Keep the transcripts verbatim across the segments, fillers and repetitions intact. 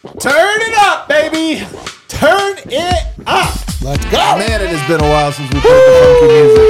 Turn it up, baby. Turn it up. Let's go. Man, it has been a while since we played the funky music.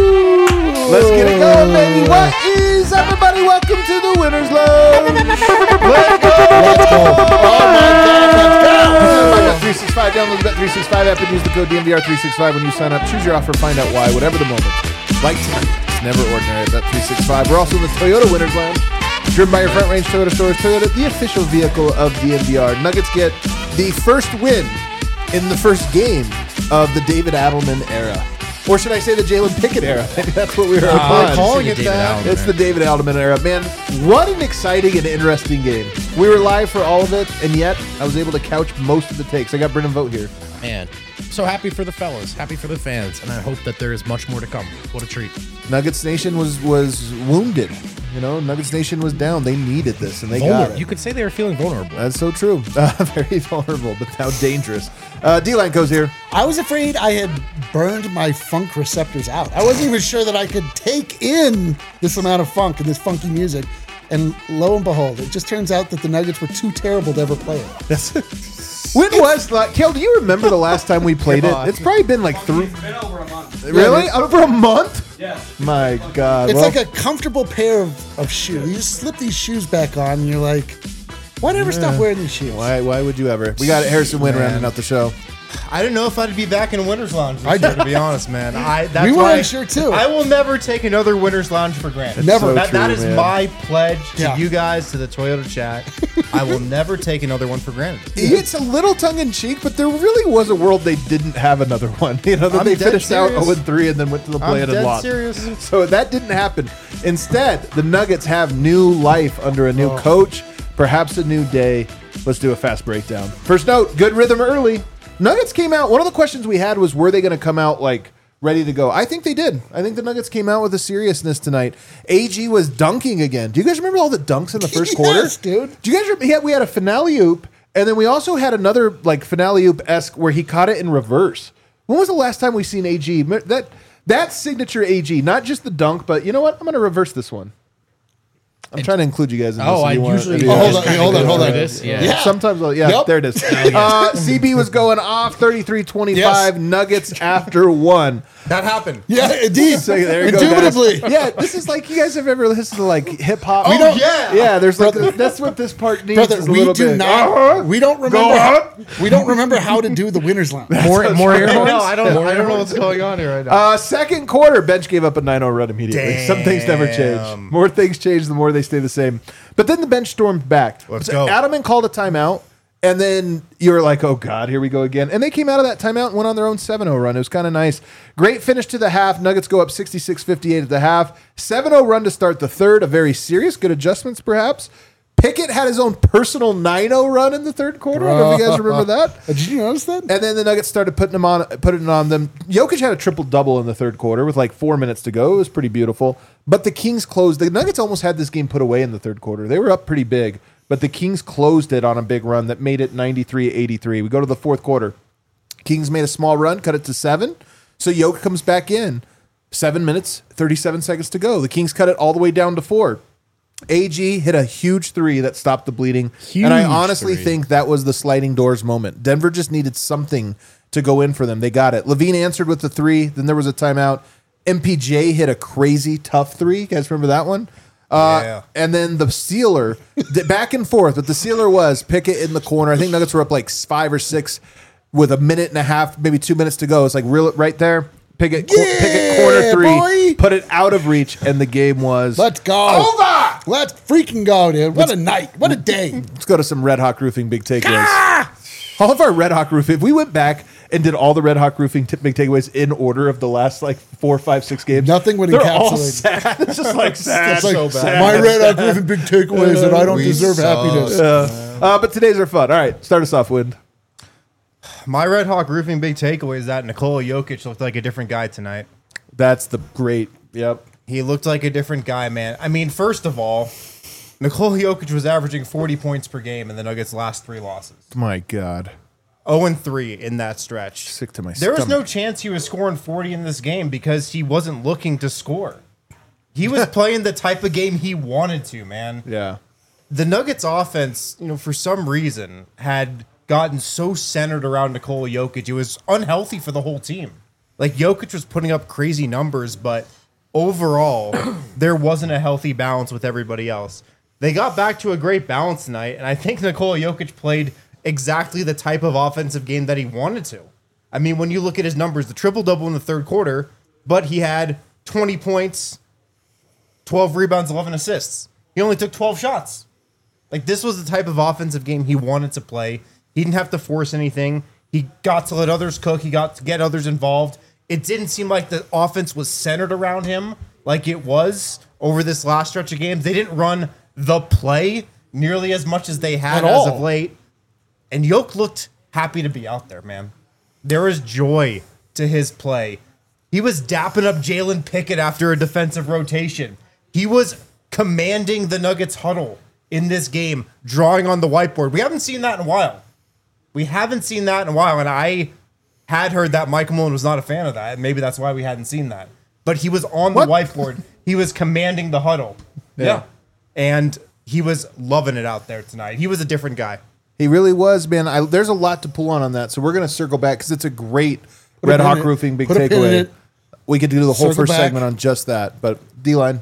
Let's get it going, baby. What is everybody? Welcome to the Winners Lounge. Let's go. Let's go. Oh my God, let's go. Bet three sixty-five. Download the Bet three sixty-five app and use the code D M V R three sixty-five when you sign up. Choose your offer. Find out why. Whatever the moment. Like tonight, it's never ordinary at Bet three sixty-five. We're also in the Toyota Winners Lounge. Driven by your Front Range Toyota stores. Toyota, the official vehicle of D M V R. Nuggets get the first win in the first game of the David Adelman era. Or should I say the Jalen Pickett era? Maybe that's what we were Uh, calling it it. that. It's the David Adelman era. Man, what an exciting and interesting game. We were live for all of it, and yet I was able to couch most of the takes. I got Brendan Vogt here. Man, so happy for the fellas, happy for the fans, and I hope that there is much more to come. What a treat. Nuggets Nation was was wounded. You know, Nuggets Nation was down. They needed this, and they Vulnerable. got it. You could say they were feeling vulnerable. That's so true. Uh, very vulnerable, but how dangerous. Uh, D-Line goes here. I was afraid I had burned my funk receptors out. I wasn't even sure that I could take in this amount of funk and this funky music. And lo and behold, it just turns out that the Nuggets were too terrible to ever play it. That's when was like, Kel, do you remember the last time we played it? It's probably been like three. It's been over a month. Really? Over a month? Yeah. My God. It's Well, like a comfortable pair of, of shoes. You just slip these shoes back on and you're like, why never stop wearing these shoes? why, why would you ever? We got Harrison Wynn Man. rounding out the show. I didn't know if I'd be back in Winners Lounge this I year, did. to be honest, man. I that's We why weren't sure, too. I will never take another Winners Lounge for granted. Never. That, that true, is man. my pledge to Yeah. you guys, to the Toyota chat. I will never take another one for granted. It's a little tongue in cheek, but there really was a world they didn't have another one. You know, that I'm they dead finished out serious. oh and three and then went to the I'm play and dead lost. serious. So that didn't happen. Instead, the Nuggets have new life under a new Oh. coach, perhaps a new day. Let's do a fast breakdown. First note, good rhythm early. Nuggets came out. One of the questions we had was, were they going to come out like ready to go? I think they did. I think the Nuggets came out with a seriousness tonight. A G was dunking again. Do you guys remember all the dunks in the first Yes, quarter? dude. Do you guys remember? Yeah, we had a finale oop, and then we also had another like finale oop-esque where he caught it in reverse. When was the last time we seen A G? That that signature A G, not just the dunk, but you know what? I'm going to reverse this one. I'm trying to include you guys in this. Oh, if I you want- usually if you Oh, want. hold on, hold on, hold on. This, yeah. Yeah. Sometimes, I'll, yeah, Yep. there it is. Uh, C B was going off thirty-three twenty-five. Yes. Nuggets after one. That happened. Yeah, indeed. So there you go, guys. Indubitably. Yeah, this is like you guys have ever listened to like hip hop. Oh, don't- yeah. yeah. There's like Brother- that's what this part needs. Brother, is a we little do bit. not. Uh-huh. We don't remember. Go How, on. we don't remember how to do the winners lounge. More, more air horns? No, I don't. I don't know what's going on here right now. Uh, second quarter, bench gave up a nine oh run immediately. Some things never change. Damn. More things change, the more they stay the same. But then the bench stormed back. Let's So go. Adelman called a timeout, and then you were like, oh, God, here we go again. And they came out of that timeout and went on their own seven oh run. It was kind of nice. Great finish to the half. Nuggets go up sixty-six fifty-eight at the half. seven oh run to start the third. A very serious, good adjustments, perhaps. Pickett had his own personal nine oh run in the third quarter. I don't know if you guys remember that. Did you notice that? And then the Nuggets started putting them on, putting it on them. Jokic had a triple double in the third quarter with like four minutes to go. It was pretty beautiful. But the Kings closed. The Nuggets almost had this game put away in the third quarter. They were up pretty big, but the Kings closed it on a big run that made it ninety-three eighty-three. We go to the fourth quarter. Kings made a small run, cut it to seven. So Jokic comes back in. Seven minutes, thirty-seven seconds to go. The Kings cut it all the way down to four. A G hit a huge three that stopped the bleeding. and I Huge honestly three. think that was the sliding doors moment. Denver just needed something to go in for them. They got it. Levine answered with the three. Then there was a timeout. M P J hit a crazy tough three. You guys remember that one? Uh, Yeah. And then the sealer, d- back and forth. But the sealer was Pickett in the corner. I think Nuggets were up like five or six with a minute and a half, maybe two minutes to go. It's like real right there. Pickett, cor- Yeah, Pickett corner three, boy. put it out of reach, and the game was Let's go. over. Let's freaking go, dude. What a night. What a day. Let's go to some Red Hawk Roofing big takeaways. All of our Red Hawk Roofing, if we went back and did all the Red Hawk Roofing t- big takeaways in order of the last like four, five, six games, Nothing would they're all encapsulate. sad. It's just like sad. It's like so bad. my red hot Griffin big takeaways that I don't We deserve suck. happiness. Uh, but today's are fun. All right, start us off, Wind. My Red Hawk Roofing big takeaway is that Nikola Jokic looked like a different guy tonight. That's the great. Yep. He looked like a different guy, man. I mean, first of all, Nikola Jokic was averaging forty points per game in the Nuggets' last three losses. My God. oh and three in that stretch. Sick to my There was no stomach. chance he was scoring forty in this game because he wasn't looking to score. He was playing the type of game he wanted to, man. Yeah. the Nuggets offense, you know, for some reason had gotten so centered around Nikola Jokic. It was unhealthy for the whole team. Like Jokic was putting up crazy numbers, but overall, there wasn't a healthy balance with everybody else. They got back to a great balance tonight, and I think Nikola Jokic played exactly the type of offensive game that he wanted to. I mean, when you look at his numbers, the triple-double in the third quarter, but he had twenty points, twelve rebounds, eleven assists. He only took twelve shots. Like, this was the type of offensive game he wanted to play. He didn't have to force anything. He got to let others cook. He got to get others involved. It didn't seem like the offense was centered around him like it was over this last stretch of games. They didn't run the play nearly as much as they had At as all. of late. And Yoke looked happy to be out there, man. There was joy to his play. He was dapping up Jalen Pickett after a defensive rotation. He was commanding the Nuggets huddle in this game, drawing on the whiteboard. We haven't seen that in a while. We haven't seen that in a while, and I had heard that Michael Malone was not a fan of that, and maybe that's why we hadn't seen that. But he was on the What? whiteboard. He was commanding the huddle. Yeah. Yeah. And he was loving it out there tonight. He was a different guy. He really was, man. I, there's a lot to pull on on that, so we're going to circle back because it's a great Put a Red pin Hawk in it. Roofing big Put a pin in takeaway. it. We could do the whole Circle first back. segment on just that, but D-line.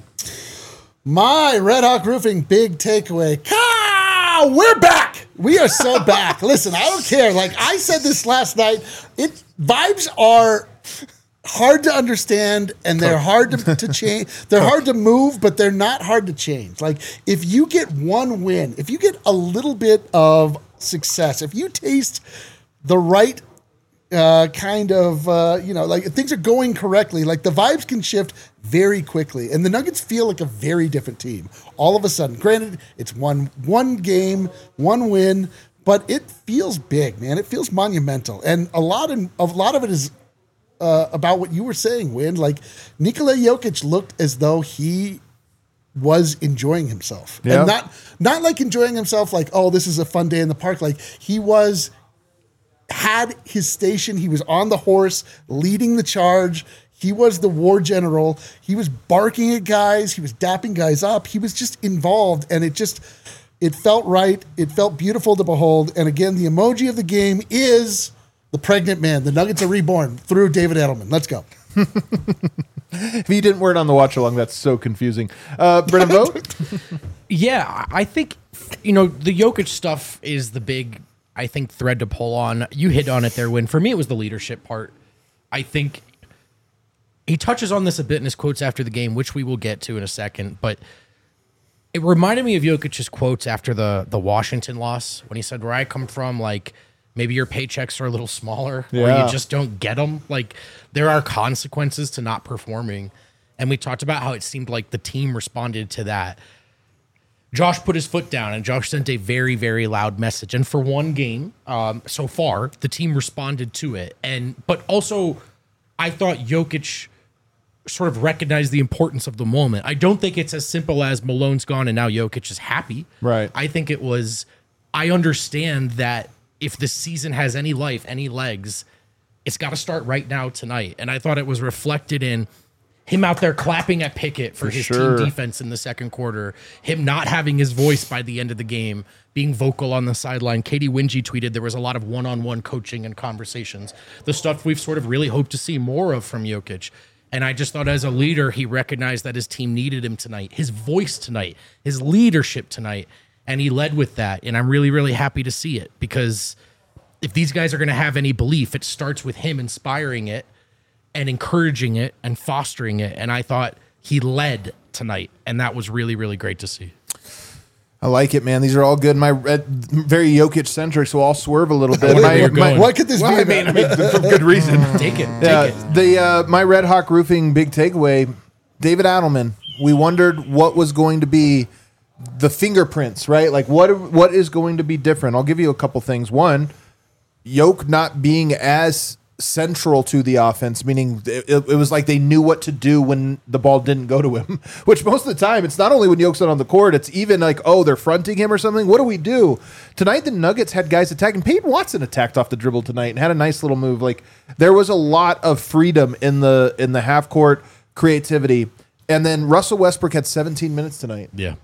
My Red Hawk Roofing big takeaway. Ka! We're back. We are so back. Listen, I don't care. Like I said this last night, it vibes are hard to understand and they're hard to, to change. They're hard to move, but they're not hard to change. Like if you get one win, if you get a little bit of success, if you taste the right uh, kind of, uh, you know, like if things are going correctly, like the vibes can shift very quickly. And the Nuggets feel like a very different team all of a sudden. Granted, it's one one game, one win, but it feels big, man. It feels monumental. And a lot of, a lot of it is uh, about what you were saying, Win. Like Nikola Jokic looked as though he was enjoying himself. Yeah. And not not like enjoying himself like, oh, this is a fun day in the park. Like he was had his station. He was on the horse, leading the charge. He was the war general. He was barking at guys. He was dapping guys up. He was just involved, and it just it felt right. It felt beautiful to behold. And again, the emoji of the game is the pregnant man. The Nuggets are reborn through David Edelman. Let's go. If you didn't word on the watch along, that's so confusing. Uh, Brennan Vogt? Yeah, I think, you know, the Jokic stuff is the big, I think, thread to pull on. You hit on it there, Win. For me, it was the leadership part. I think he touches on this a bit in his quotes after the game, which we will get to in a second, but it reminded me of Jokic's quotes after the, the Washington loss when he said, where I come from, like, maybe your paychecks are a little smaller or Yeah. you just don't get them. Like, there are consequences to not performing. And we talked about how it seemed like the team responded to that. Josh put his foot down, and Josh sent a very, very loud message. And for one game um, so far, the team responded to it. And but also, I thought Jokic sort of recognized the importance of the moment. I don't think it's as simple as Malone's gone and now Jokic is happy. Right. I think it was, I understand that if the season has any life, any legs, it's got to start right now tonight. And I thought it was reflected in him out there clapping at Pickett for, For his sure. team defense in the second quarter, him not having his voice by the end of the game, being vocal on the sideline. Katie Wingy tweeted there was a lot of one-on-one coaching and conversations, the stuff we've sort of really hoped to see more of from Jokic. And I just thought as a leader, he recognized that his team needed him tonight, his voice tonight, his leadership tonight, and he led with that. And I'm really, really happy to see it because if these guys are going to have any belief, it starts with him inspiring it and encouraging it and fostering it. And I thought he led tonight, and that was really, really great to see. I like it, man. These are all good. My red, very Jokic centric, so I'll swerve a little bit. Where my, you're my- going. What could this well, be I mean, about? I mean, for good reason. Take it. Take Yeah, it. the uh, my Red Hawk Roofing big takeaway, David Adelman. We wondered what was going to be the fingerprints, right? Like what what is going to be different? I'll give you a couple things. One, Yoke not being as central to the offense, meaning it, it was like they knew what to do when the ball didn't go to him, which most of the time, it's not only when Yoke's not on the court, it's even like, oh, they're fronting him or something. What do we do? Tonight, the Nuggets had guys attacking. Peyton Watson attacked off the dribble tonight and had a nice little move. Like there was a lot of freedom in the in the half court creativity. And then Russell Westbrook had seventeen minutes tonight. Yeah.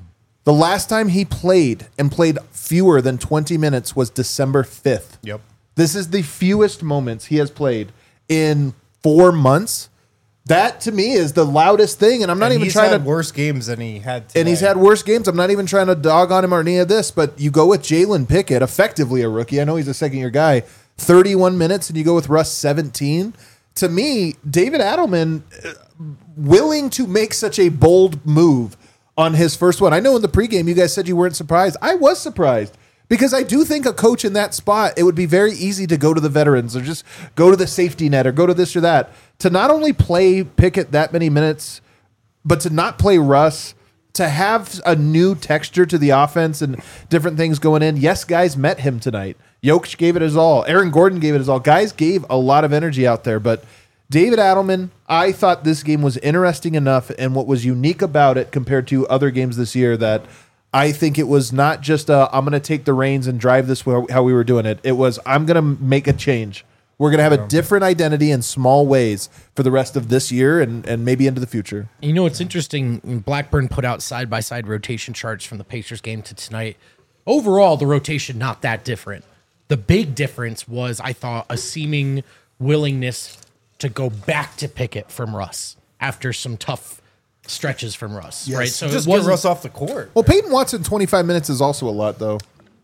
The last time he played and played fewer than twenty minutes was December fifth. Yep. This is the fewest moments he has played in four months. That to me is the loudest thing, and I'm not And even he's trying had to. worse games than he had today. And he's had worse games. I'm not even trying to dog on him or any of this, but you go with Jalen Pickett, effectively a rookie. I know he's a second year guy, thirty-one minutes, and you go with Russ seventeen. To me, David Adelman, uh, willing to make such a bold move on his first one. I know in the pregame you guys said you weren't surprised. I was surprised. Because I do think a coach in that spot, it would be very easy to go to the veterans or just go to the safety net or go to this or that. To not only play Pickett that many minutes, but to not play Russ, to have a new texture to the offense and different things going in. Yes, guys met him tonight. Jokic gave it his all. Aaron Gordon gave it his all. Guys gave a lot of energy out there. But David Adelman, I thought this game was interesting enough and what was unique about it compared to other games this year that I think it was not just a, I'm going to take the reins and drive this how we were doing it. It was, I'm going to make a change. We're going to have a different identity in small ways for the rest of this year and, and maybe into the future. You know, it's interesting. Blackburn put out side-by-side rotation charts from the Pacers game to tonight. Overall, the rotation not that different. The big difference was, I thought, a seeming willingness to go back to Pickett from Russ after some tough stretches from Russ, Yes. right? So Just it get wasn't- Russ off the court. Well, Peyton Watson, twenty-five minutes is also a lot, though.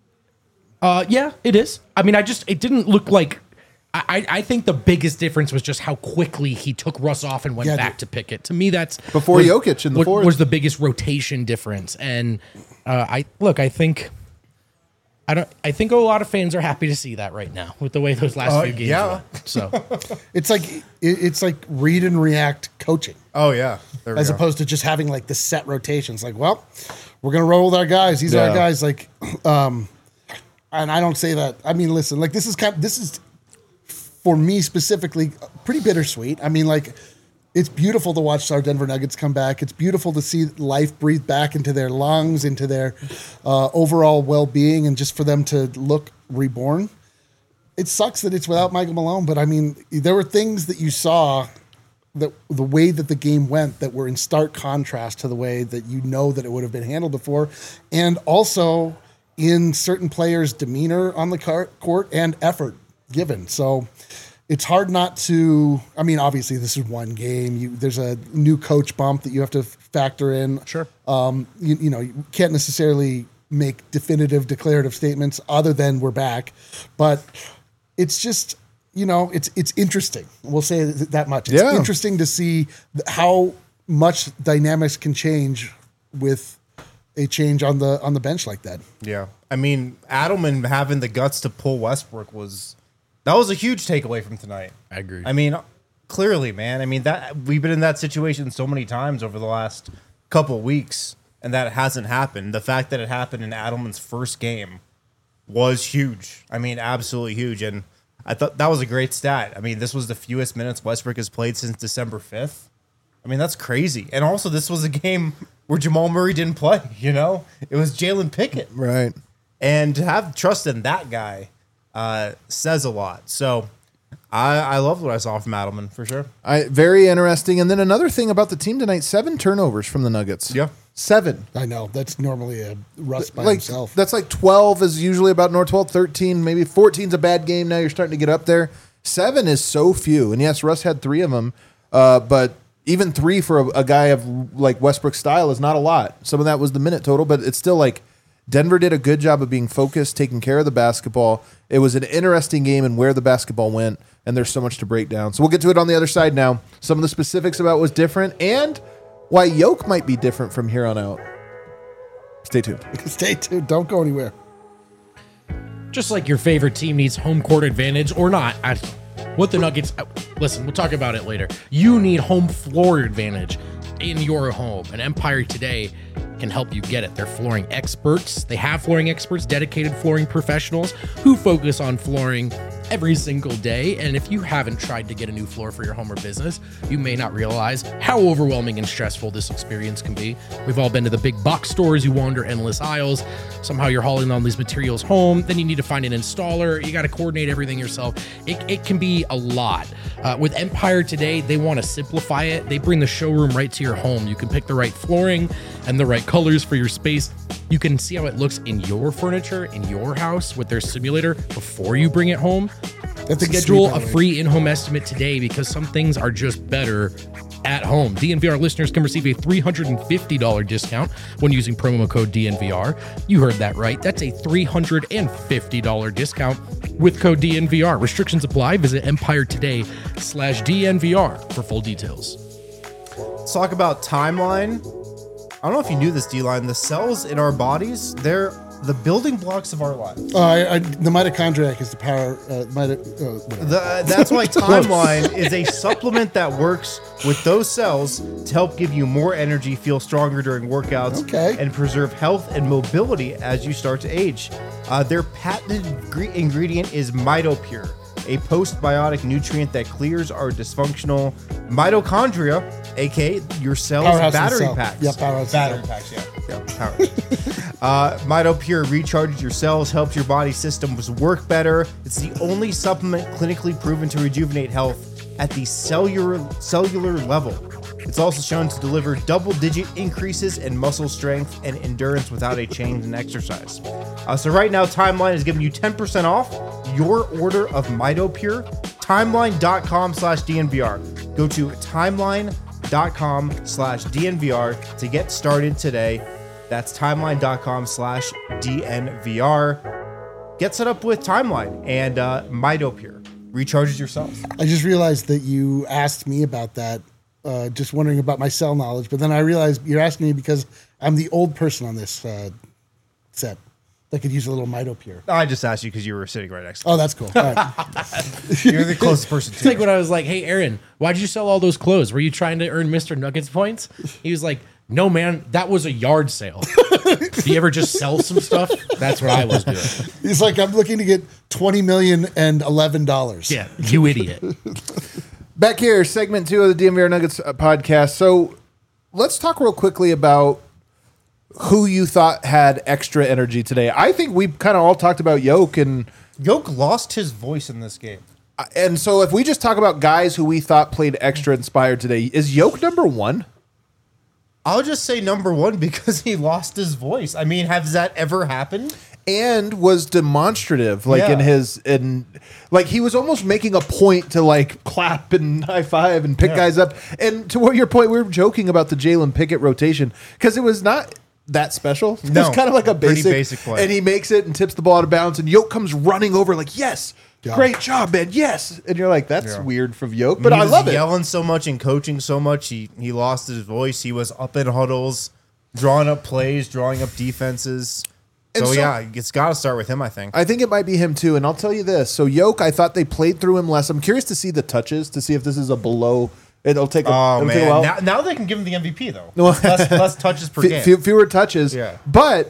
Uh, yeah, it is. I mean, I just it didn't look like. I, I think the biggest difference was just how quickly he took Russ off and went Yeah, back dude. to Pickett. To me, that's Before was, Jokic in the was, fourth. was the biggest rotation difference. And uh, I look, I think. I don't. I think a lot of fans are happy to see that right now with the way those last Uh, few games yeah. went. So It's like it, it's like read and react coaching, Oh, yeah. There we as go. opposed to just having like the set rotations. Like, well, we're gonna roll with our guys. These are Yeah. our guys. Like, um, and I don't say that. I mean, listen, like this is kind. This is for me specifically pretty bittersweet. I mean, like. It's beautiful to watch our Denver Nuggets come back. It's beautiful to see life breathe back into their lungs, into their uh, overall well-being, and just for them to look reborn. It sucks that it's without Michael Malone, but I mean, there were things that you saw that the way that the game went that were in stark contrast to the way that you know that it would have been handled before, and also in certain players' demeanor on the car- court and effort given. So. It's hard not to. I mean, obviously, this is one game. You, there's a new coach bump that you have to factor in. Sure. Um, you, you know, you can't necessarily make definitive, declarative statements other than we're back, but it's just, you know, it's it's interesting. We'll say th- that much. It's Yeah. interesting to see th- how much dynamics can change with a change on the on the bench like that. Yeah. I mean, Adelman having the guts to pull Westbrook was that was a huge takeaway from tonight. I agree. I mean, clearly, man. I mean, that we've been in that situation so many times over the last couple weeks, and that hasn't happened. The fact that it happened in Adelman's first game was huge. I mean, absolutely huge. And I thought that was a great stat. I mean, this was the fewest minutes Westbrook has played since December fifth. I mean, that's crazy. And also, this was a game where Jamal Murray didn't play, you know? It was Jalen Pickett. Right. And to have trust in that guy uh, says a lot. So I, I loved what I saw from Adelman, for sure. I very interesting. And then another thing about the team tonight: seven turnovers from the Nuggets. Yeah. seven. I know that's normally a Russ by Like himself. that's like twelve is usually about north. twelve, thirteen, maybe fourteen's a bad game. Now you're starting to get up there. Seven is so few. And yes, Russ had three of them, uh, but even three for a, a guy of like Westbrook's style is not a lot. Some of that was the minute total, but it's still like Denver did a good job of being focused, taking care of the basketball. It was an interesting game and where the basketball went, and there's so much to break down. So we'll get to it on the other side now. Some of the specifics about what was different and why Yoke might be different from here on out. Stay tuned. Stay tuned. Don't go anywhere. just like your favorite team needs home court advantage or not, I, what the Nuggets, listen, we'll talk about it later. You need home floor advantage in your home, and Empire Today can help you get it. They're flooring experts. They have flooring experts, dedicated flooring professionals who focus on flooring every single day. And if you haven't tried to get a new floor for your home or business, you may not realize how overwhelming and stressful this experience can be. We've all been to the big box stores. You wander endless aisles. Somehow you're hauling all these materials home. Then you need to find an installer. You got to coordinate everything yourself. It, it can be a lot. Uh, with Empire today, they want to simplify it. They bring the showroom right to your home. You can pick the right flooring and the right colors for your space. You can see how it looks in your furniture, in your house with their simulator before you bring it home. That's a Schedule sweet a free in-home estimate today because some things are just better at home. D N V R listeners can receive a three hundred fifty dollars discount when using promo code D N V R. You heard that right. That's a three hundred fifty dollars discount with code D N V R. Restrictions apply. Visit Empire today slash D N V R for full details. Let's talk about timeline. I don't know if you knew this, D-Line. The cells in our bodies, they're the building blocks of our lives. Uh, I, I, the mitochondriac is the power. Uh, mito, uh, whatever. The, that's why Timeline is a supplement that works with those cells to help give you more energy, feel stronger during workouts, Okay. and preserve health and mobility as you start to age. Uh, their patented gre- ingredient is MitoPure, a postbiotic nutrient that clears our dysfunctional mitochondria, aka your cells' Powerhouse in battery cell. packs. Yeah, powerhouse in battery cell. packs. Yeah, yeah. Power. uh, MitoPure recharges your cells, helps your body systems work better. It's the only supplement clinically proven to rejuvenate health at the cellular cellular level. It's also shown to deliver double-digit increases in muscle strength and endurance without a change in exercise. Uh, so right now, Timeline is giving you ten percent off your order of MitoPure. Timeline.com slash DNVR. Go to timeline.com slash DNVR to get started today. That's timeline.com slash DNVR. Get set up with Timeline and uh, MitoPure. Recharges your cells. I just realized that you asked me about that, uh, just wondering about my cell knowledge. But then I realized you're asking me because I'm the old person on this uh, set that could use a little MitoPure. I just asked you because you were sitting right next to me. Oh, that's cool. All right. You're the closest person It's to like when I was like, hey, Aaron, why'd you sell all those clothes? Were you trying to earn Mister Nuggets points? He was like, no, man, that was a yard sale. Do you ever just sell some stuff? That's what I was doing. He's like, I'm looking to get twenty million and eleven dollars. Yeah, you idiot. Back here, segment two of the D N V R Nuggets uh, podcast. So let's talk real quickly about who you thought had extra energy today. I think we kind of all talked about Yoke, and Yoke lost his voice in this game. and so if we just talk about guys who we thought played extra inspired today, is Yoke number one? I'll just say number one because he lost his voice. I mean, has that ever happened? And was demonstrative, like in Yeah. his in like he was almost making a point to like clap and high five and pick Yeah. guys up. And to what your point, we were joking about the Jalen Pickett rotation because it was not that special. It No, was kind of like a pretty basic, basic play. and he makes it and tips the ball out of bounds, and Yoke comes running over like, yes, Yeah. great job, man, yes. And you're like, that's Yeah. weird from Yoke, but he I was love it. yelling so much and coaching so much. He he lost his voice. He was up in huddles, drawing up plays, drawing up defenses. And So, so- yeah, it's got to start with him, I think. I think it might be him too, and I'll tell you this. So Yoke, I thought they played through him less. I'm curious to see the touches to see if this is a below. It'll take a, Oh it'll take a man! while. Now, now they can give him the M V P though. No. less, less touches per Fe- game. fe- fewer touches. Yeah. But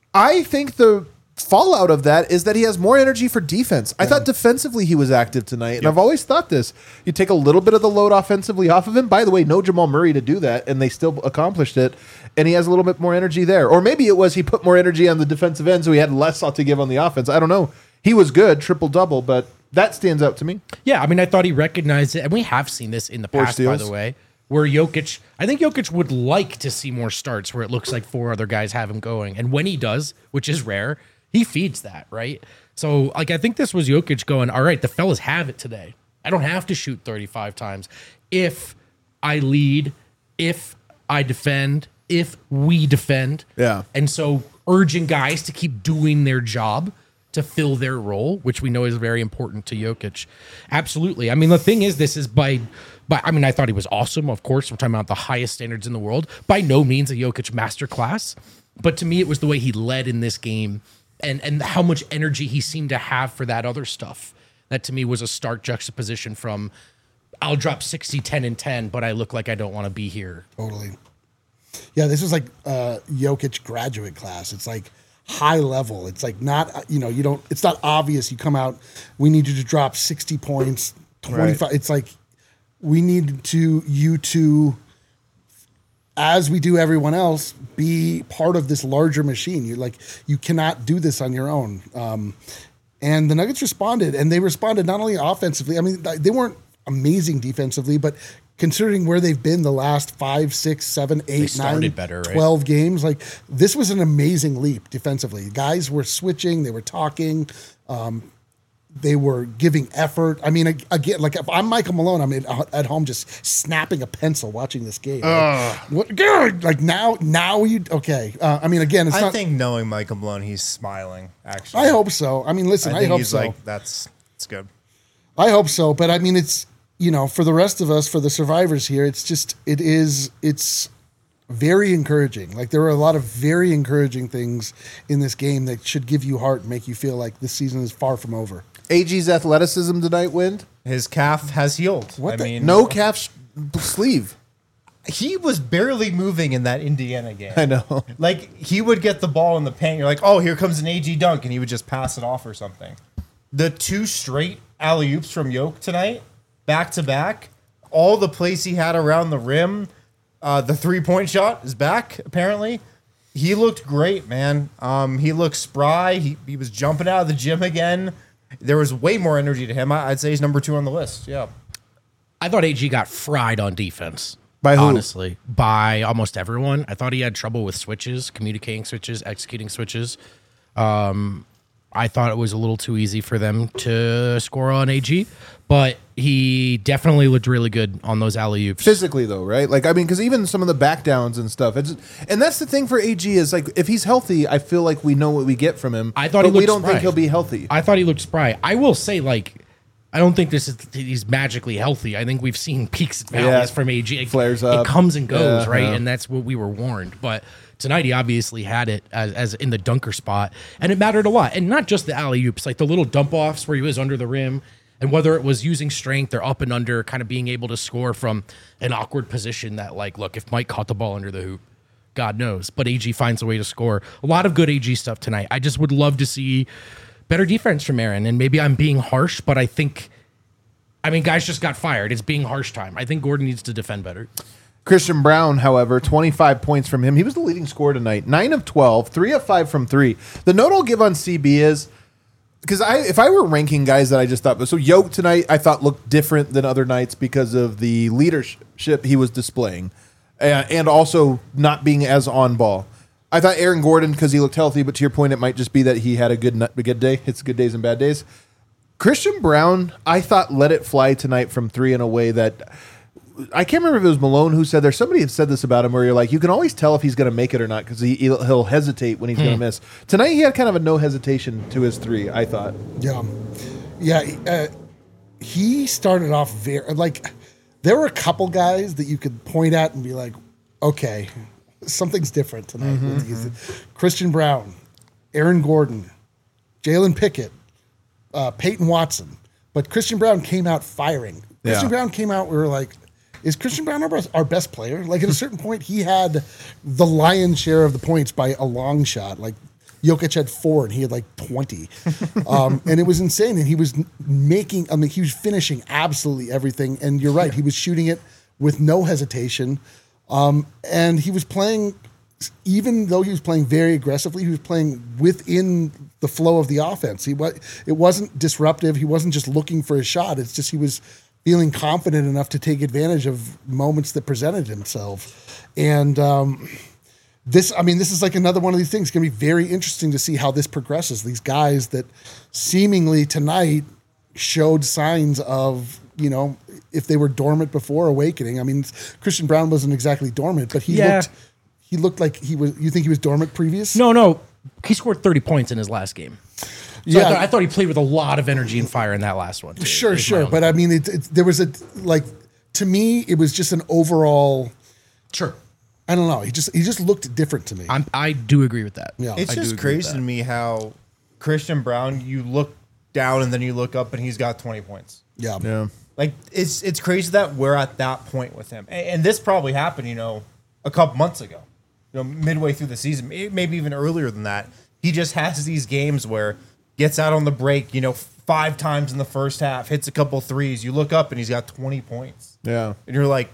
I think the fallout of that is that he has more energy for defense. I thought defensively he was active tonight, and I've always thought this. You take a little bit of the load offensively off of him. By the way, no Jamal Murray to do that, and they still accomplished it. And he has a little bit more energy there. Or maybe it was he put more energy on the defensive end, so he had less to give on the offense. I don't know. He was good, triple-double, but that stands out to me. Yeah, I mean, I thought he recognized it, and we have seen this in the Four past, by steals. the way, where Jokic, I think Jokic would like to see more starts where it looks like four other guys have him going. And when he does, which is rare, he feeds that, right? So, like, I think this was Jokic going, all right, the fellas have it today. I don't have to shoot thirty-five times. If I lead, if I defend, if we defend. Yeah. And so urging guys to keep doing their job to fill their role, which we know is very important to Jokic. Absolutely. I mean, the thing is, this is by, by, I mean, I thought he was awesome. Of course, we're talking about the highest standards in the world. By no means a Jokic masterclass, but to me, it was the way he led in this game and, and how much energy he seemed to have for that other stuff. That to me was a stark juxtaposition from, I'll drop sixty, ten, and ten, but I look like I don't want to be here. Totally. Yeah, this was like uh, Jokic graduate class. It's like high level. It's like not, you know, you don't, it's not obvious. You come out, we need you to drop sixty points, twenty-five. Right. It's like, we need to, you to, as we do everyone else, be part of this larger machine. You're like, you cannot do this on your own. Um, and the Nuggets responded, and they responded not only offensively. I mean, they weren't amazing defensively, but considering where they've been the last five, six, seven, eight, nine, better, right? twelve games, like this was an amazing leap defensively. Guys were switching, they were talking, um, they were giving effort. I mean, ag- again, like if I'm Michael Malone, I'm in, at home just snapping a pencil watching this game. Like, what, God, like now, now you okay? Uh, I mean, again, it's I not. think knowing Michael Malone, he's smiling. Actually, I hope so. I mean, listen, I I, think hope he's so. like that's it's good. I hope so, but I mean, it's, you know, for the rest of us, for the survivors here, it's just, it is, it's very encouraging. Like there are a lot of very encouraging things in this game that should give you heart and make you feel like this season is far from over. A G's athleticism tonight, Wind. His calf has healed. What I the- mean, No calf sh- sleeve. he was barely moving in that Indiana game. I know. Like he would get the ball in the paint. You're like, oh, here comes an A G dunk, and he would just pass it off or something. The two straight alley oops from Yoke tonight, back to back. All the plays he had around the rim. Uh, the three point shot is back. Apparently, he looked great, man. Um, he looked spry. He he was jumping out of the gym again. There was way more energy to him. I, I'd say he's number two on the list. Yeah. I thought A G got fried on defense. By who? Honestly, by almost everyone. I thought he had trouble with switches, communicating switches, executing switches. Um, I thought it was a little too easy for them to score on A G, but he definitely looked really good on those alley-oops. Physically, though, right? Like, I mean, because even some of the back downs and stuff, it's, and that's the thing for A G is like, if he's healthy, I feel like we know what we get from him. I thought but he we looked don't spry. think he'll be healthy. I thought he looked spry. I will say, like, I don't think this is he's magically healthy. I think we've seen peaks and valleys Yeah. from A G. It, Flares it up. comes and goes, Yeah, right? yeah. And that's what we were warned. But tonight he obviously had it as, as in the dunker spot, and it mattered a lot. And not just the alley oops, like the little dump offs where he was under the rim, and whether it was using strength or up and under, kind of being able to score from an awkward position. That, like, look, if Mike caught the ball under the hoop, God knows. But A G finds a way to score. A lot of good A G stuff tonight. I just would love to see better defense from Aaron. And maybe I'm being harsh, but I think. I mean, guys just got fired. It's being harsh time. I think Gordon needs to defend better. Christian Brown, however, twenty-five points from him. He was the leading scorer tonight. nine of twelve, three of five from three. The note I'll give on C B is, because I, if I were ranking guys that I just thought, so Yoke tonight I thought looked different than other nights because of the leadership he was displaying, uh, and also not being as on ball. I thought Aaron Gordon, because he looked healthy, but to your point, it might just be that he had a good, a good day. It's good days and bad days. Christian Brown, I thought let it fly tonight from three in a way that I can't remember if it was Malone who said, there's somebody that said this about him where you're like, you can always tell if he's going to make it or not because he, he'll, he'll hesitate when he's going to miss. Tonight he had kind of a no hesitation to his three, I thought. Yeah. Yeah. Uh, he started off very, like, there were a couple guys that you could point at and be like, okay, something's different tonight. Mm-hmm. Christian Brown, Aaron Gordon, Jalen Pickett, uh, Peyton Watson. But Christian Brown came out firing. Christian Yeah. Brown came out, we were like, is Christian Brown our best, our best player? Like, at a certain point, he had the lion's share of the points by a long shot. Like, Jokic had four and he had like twenty. Um, and it was insane. And he was making, I mean, he was finishing absolutely everything. And you're right, he was shooting it with no hesitation. Um, and he was playing, even though he was playing very aggressively, he was playing within the flow of the offense. He was, it wasn't disruptive. He wasn't just looking for a shot. It's just he was feeling confident enough to take advantage of moments that presented himself. And um, this, I mean, this is like another one of these things. It's going to be very interesting to see how this progresses. These guys that seemingly tonight showed signs of, you know, if they were dormant before awakening. I mean, Christian Brown wasn't exactly dormant, but he Yeah. looked, he looked like he was, you think he was dormant previous? No, no. He scored thirty points in his last game. So Yeah. I, thought, I thought he played with a lot of energy and fire in that last one. Too, Sure, is my sure. only- But I mean, it, it, there was a, like, to me, it was just an overall, sure. I don't know. He just, he just looked different to me. I'm, I do agree with that. Yeah. It's I do just agree with crazy that. to me how Christian Brown, you look down and then you look up and he's got twenty points. yeah. Yeah. Like it's it's crazy that we're at that point with him, and, and this probably happened, you know, a couple months ago, you know, midway through the season, may- maybe even earlier than that. he just has these games where gets out on the break, you know, five times in the first half, hits a couple threes. You look up and he's got twenty points. Yeah. And you're like,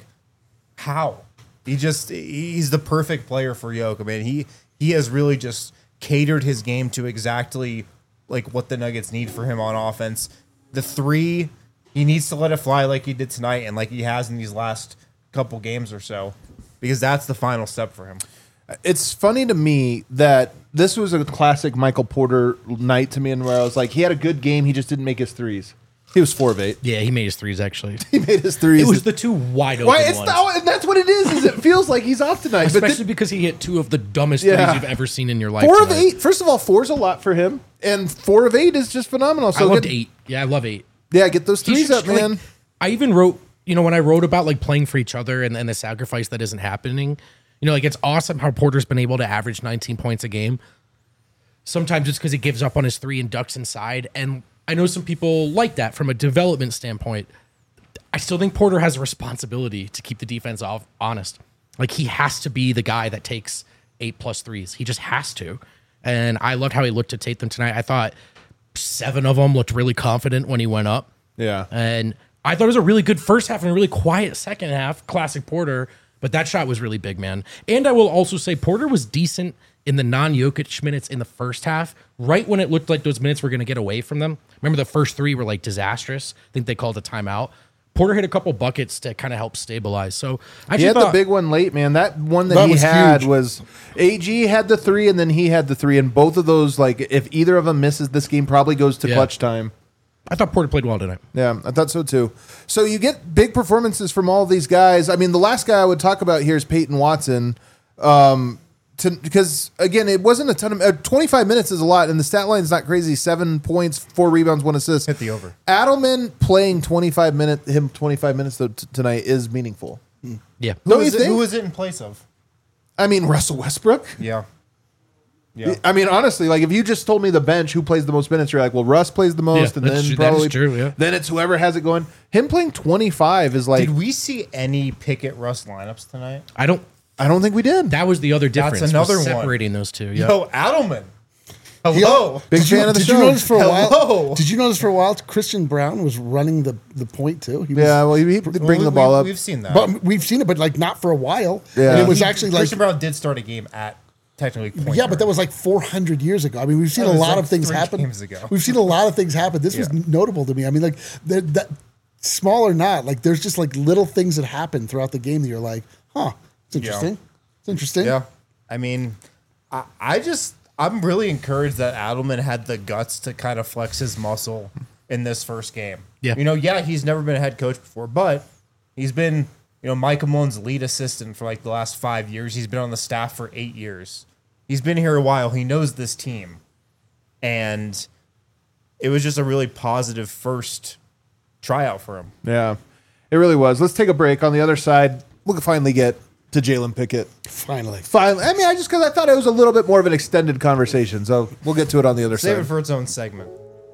how? He just, he's the perfect player for Jokic, man. He, he has really just catered his game to exactly like what the Nuggets need for him on offense. The three, he needs to let it fly like he did tonight and like he has in these last couple games or so, because that's the final step for him. It's funny to me that this was a classic Michael Porter night to me, and where I was like, he had a good game, he just didn't make his threes. He was four of eight. Yeah, he made his threes actually. He made his threes. It was the two wide open Why? It's ones. the, and that's what it is. Is it feels like he's off tonight, but Especially then, because he hit two of the dumbest Yeah. threes you've ever seen in your life. four of tonight. eight. First of all, four's a lot for him, and four of eight is just phenomenal. I So loved get, eight. Yeah, I love eight. Yeah, get those He threes should up, strike- man. I even wrote, you know, when I wrote about like playing for each other and, and the sacrifice that isn't happening, you know, like it's awesome how Porter's been able to average nineteen points a game. Sometimes it's because he gives up on his three and ducks inside. And I know some people like that from a development standpoint. I still think Porter has a responsibility to keep the defense off, honest. Like he has to be the guy that takes eight plus threes. He just has to. And I loved how he looked at Tatum tonight. I thought seven of them looked really confident when he went up. Yeah. And I thought it was a really good first half and a really quiet second half. Classic Porter. But that shot was really big, man. And I will also say Porter was decent in the non-Jokic minutes in the first half, right when it looked like those minutes were going to get away from them. Remember the first three were like disastrous. I think they called a timeout. Porter hit a couple buckets to kind of help stabilize. So I He just had thought, the big one late, man. That one that, That he was had huge. was A G had the three, and then he had the three, and both of those, like, if either of them misses, this game probably goes to Yeah. clutch time. I thought Porter played well tonight. Yeah, I thought so too. So you get big performances from all these guys. I mean, the last guy I would talk about here is Peyton Watson, um, to, because again, it wasn't a ton of uh, twenty-five minutes is a lot, and the stat line is not crazy. Seven points, four rebounds, one assist. Hit the over. Adelman playing twenty-five minutes, him twenty-five minutes though, t- tonight is meaningful. Yeah. Don't Who you is, it, think? who is it in place of? I mean, Russell Westbrook. Yeah. Yeah. I mean, honestly, like if you just told me the bench who plays the most minutes, you're like, well, Russ plays the most, Yeah, and that's then true- that is probably true, yeah. then it's whoever has it going. Him playing twenty-five is like Did we see any Pickett Russ lineups tonight? I don't. I don't think we did. That was the other difference. was another one. separating those two. Yeah. Yo, Adelman. Hello. Big Did you, fan of the did show. you notice for a while? Hello. Did you notice for a while Christian Brown was running the, the point too? He was, Yeah, well, he, he bring We- the ball we- up. We've seen that. but we've seen it, but like not for a while. Yeah. And it was He- actually like Christian Brown did start a game at technically point yeah, but that guard. was like four hundred years ago. I mean, we've seen That a was lot like of things three happen. games ago. We've seen a lot of things happen. This was Yeah. notable to me. I mean, like that, that small or not, like there's just like little things that happen throughout the game that you're like, huh, it's interesting. It's interesting. Yeah. I mean, I, I just, I'm really encouraged that Adelman had the guts to kind of flex his muscle in this first game. Yeah. You know, yeah, he's never been a head coach before, but he's been, you know, Mike Malone's lead assistant for like the last five years. He's been on the staff for eight years. He's been here a while. He knows this team. And it was just a really positive first tryout for him. Yeah, it really was. Let's take a break. On the other side, we'll finally get to Jalen Pickett. Finally. Finally, I mean, I just because I thought it was a little bit more of an extended conversation, so we'll get to it on the other Save side. it for its own segment.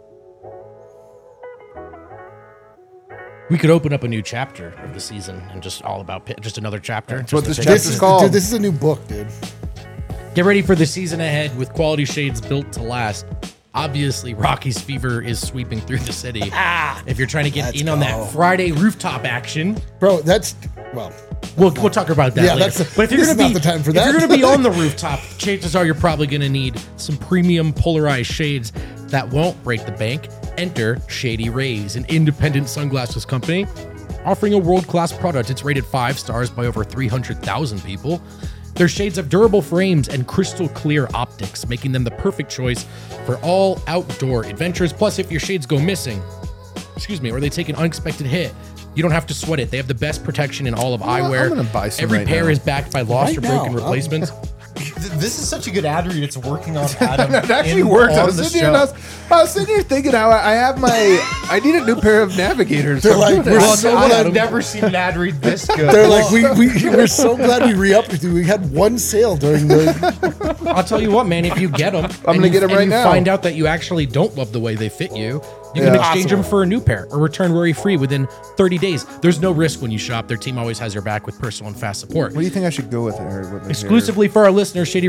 We could open up a new chapter of the season and just all about Pitt, just another chapter. That's what just this a- chapter's This is, called. dude, this is a new book, dude. Get ready for the season ahead with quality shades built to last. Obviously, Rockies fever is sweeping through the city. Ah, if you're trying to get Let's in on go. that Friday rooftop action, Bro, that's, well, we'll we'll talk about that Yeah, later. that's- but if you're this gonna is be not the time for if that. you're gonna be on the rooftop, chances are you're probably gonna need some premium polarized shades that won't break the bank. Enter Shady Rays, an independent sunglasses company offering a world-class product. It's rated five stars by over three hundred thousand people. Their shades have durable frames and crystal clear optics, making them the perfect choice for all outdoor adventures. Plus, if your shades go missing, excuse me, or they take an unexpected hit, you don't have to sweat it. They have the best protection in all of know, eyewear. I'm gonna buy some Every right pair now. is backed by lost Right or broken now. replacements. Th- This is such a good ad read. It's working on Adam. It actually in- worked. I on was, the sitting here and I, show. was, I was sitting here thinking how I I have my. I need a new pair of navigators. They're I'm like, doing we're it. Well, so no, glad- I've never seen an ad read this good. They're like, we, we, we're so glad we re-upped with you. We had one sale during the, I'll tell you what, man, if you get them, I'm gonna get 'em and right you now. find out that you actually don't love the way they fit you, you can Yeah. exchange Possible. them for a new pair or return worry free within thirty days. There's no risk when you shop. Their team always has your back with personal and fast support. What do you think I should go with? Or what Exclusively for our listeners, Shady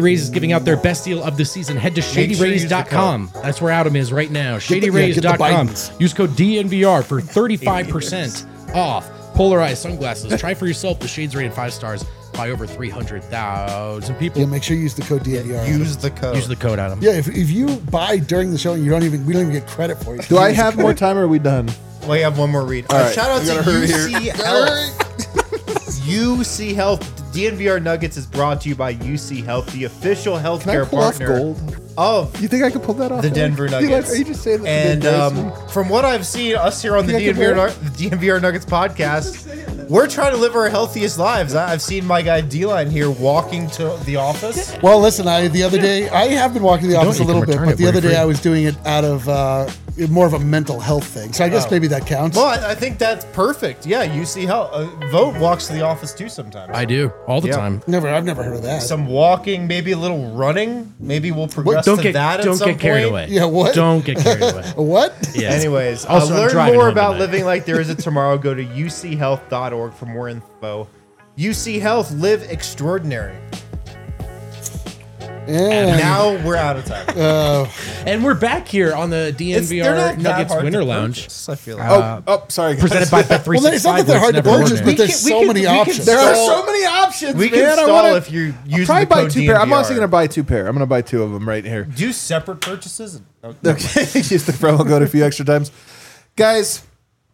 Rays is giving out their best deal of the season. Head to shady sure you rays use the dot com. That's where Adam is right now. the- yeah, shady rays dot com. get the Bidens. Use code D N V R for thirty-five percent off polarized sunglasses. Try for yourself. The shades rated five stars by over three hundred thousand people. Yeah, make sure you use the code D N V R. Use the code. Use the code, Adam. Yeah, if, if you buy during the show, you don't even we don't even get credit for it. Do I have more time or are we done? We have one more read. All Uh, right, shout out we to gotta hurry U here. C Health. U C Health. D N V R Nuggets is brought to you by U C Health, the official Can I healthcare pull off partner gold? of You think I could pull that off? the Eric? Denver Do you like- Nuggets. Are you just saying that? And to um, embarrass me? from what I've seen, us here on the Think I D N V R, can Nu- D N V R Nuggets podcast, we're trying to live our healthiest lives. I- I've seen my guy D-Line here walking to the office. Well, listen, I the other day I have been walking to the office a you can little bit, return but it the other for day free. I was doing it out of uh, more of a mental health thing. So I guess Oh. maybe that counts. Well, I I think that's perfect. Yeah, U C Health. Uh, Vote walks to the office too sometimes. I do all the Yeah. time. Never, I've never heard of that. Some walking, maybe a little running. Maybe we'll progress Don't to get that at don't some get carried point. away. Yeah, what? Don't get carried away. What? Yeah. Anyways, Also, uh, I'm learn driving more home about tonight. living like there is a tomorrow. Go to u c health dot org for more info. U C Health, live extraordinary. Yeah. Now we're out of time. Uh, And we're back here on the It's- they're D N V R not that Nuggets hard Winter to Lounge, purchase, I feel like. Oh, oh, sorry. guys. presented by Bet three well, it's not sixty-five. that they're hard to purchase, but We there's can- so we can- many we can options. There are Stall- so many options. we can man. I stall wanna- if you I'll use probably the buy code two pair. I'm honestly D N V R. gonna buy two pair. I'm gonna buy two of them right here. Do separate purchases. Oh, no. Okay, just the promo code a few extra times, guys.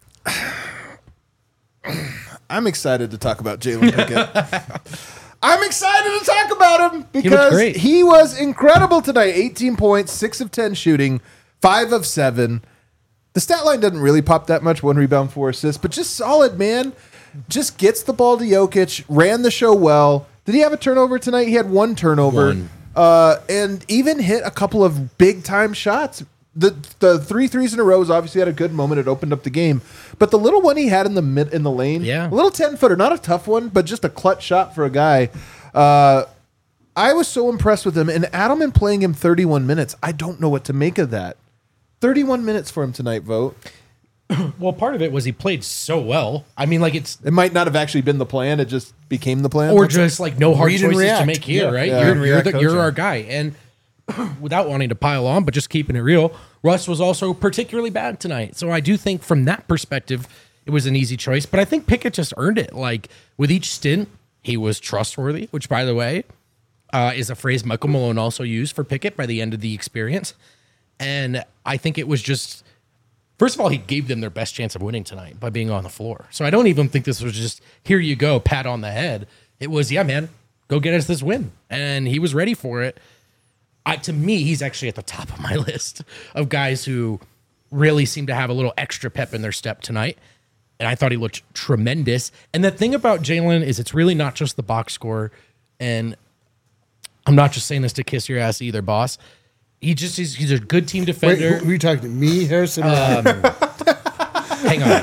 I'm excited to talk about Jalen Pickett. I'm excited to talk about him because great. he was incredible tonight. eighteen points, six of ten shooting, five of seven. The stat line doesn't really pop that much. One rebound, four assists, but just solid, man. Just gets the ball to Jokic, ran the show well. Did he have a turnover tonight? He had one turnover. One. Uh, and even hit a couple of big time shots. The the three threes in a row was obviously had a good moment. It opened up the game, but the little one he had in the mid in the lane, Yeah. a little ten footer, not a tough one, but just a clutch shot for a guy. Uh, I was so impressed with him, and Adelman playing him thirty-one minutes. I don't know what to make of that. thirty-one minutes for him tonight, Vote. Well, part of it was he played so well. I mean, like it's It might not have actually been the plan. It just became the plan. or just like no hard Read and choices to react. make here, Yeah. right? Yeah. You're, Read and you're, react the, you're coaching. our guy. And without wanting to pile on, but just keeping it real, Russ was also particularly bad tonight. So I do think from that perspective, it was an easy choice. But I think Pickett just earned it. Like with each stint, he was trustworthy, which, by the way, uh, is a phrase Michael Malone also used for Pickett by the end of the experience. And I think it was just, first of all, he gave them their best chance of winning tonight by being on the floor. So I don't even think this was just, here you go, pat on the head. It was, yeah, man, go get us this win. And he was ready for it. I, to me, he's actually at the top of my list of guys who really seem to have a little extra pep in their step tonight. And I thought he looked tremendous. And the thing about Jalen is it's really not just the box score. And I'm not just saying this to kiss your ass either, boss. He just he's, he's a good team Wait, defender. who, who are you talking to? Me, Harrison? Uh, Hang on.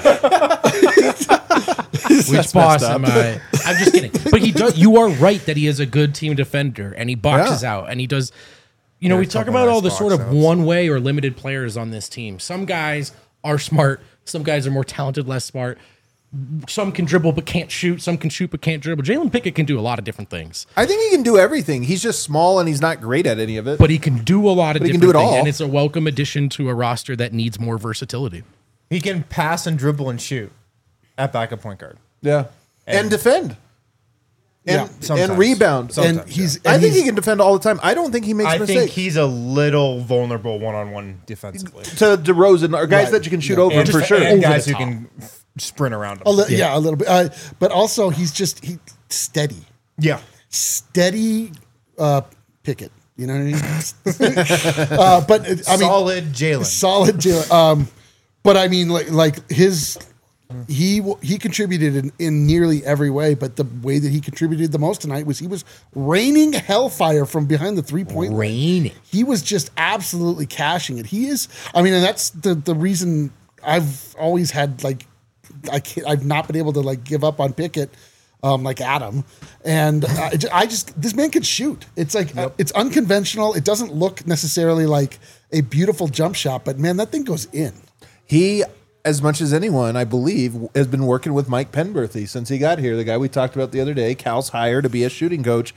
Which boss am I? I'm just kidding. But he does. You are right that he is a good team defender, and he boxes Yeah. out, and he does. You know, Yeah, we a talk couple about all nice the sort box of outs. one way or limited players on this team. Some guys are smart. Some guys are more talented, less smart. Some can dribble but can't shoot. Some can shoot but can't dribble. Jalen Pickett can do a lot of different things, I think he can do everything. He's just small and he's not great at any of it. but he can do a lot of But he can different do it things, all. and it's a welcome addition to a roster that needs more versatility. He can pass and dribble and shoot at backup point guard. yeah, and, And- defend, Yeah, and, sometimes. and rebound. Sometimes, and he's. I and think he's- he can defend all the time. I don't think he makes I mistakes. think he's a little vulnerable one-on-one defensively. to DeRozan or guys Right. that you can shoot Yeah. over And, for sure. and Over guys the who top. can f- sprint around him. A li- yeah. a little bit. Uh, but also, he's just he steady, Yeah. steady uh, Pickett. You know what I mean? uh, but uh, I mean, Solid Jalen. solid. Jalen. Um, but I mean, like like his. He w- he contributed in, in nearly every way, but the way that he contributed the most tonight was he was raining hellfire from behind the three point line. Raining. He was just absolutely cashing it. He is. I mean, and that's the the reason I've always had like I can't, I've not been able to like give up on Pickett. Um, like Adam, and I, ju- I just this man can shoot. It's like uh, it's unconventional. It doesn't look necessarily like a beautiful jump shot, but man, that thing goes in. He, as much as anyone, I believe, has been working with Mike Penberthy since he got here. The guy we talked about the other day, Cal's hired to be a shooting coach.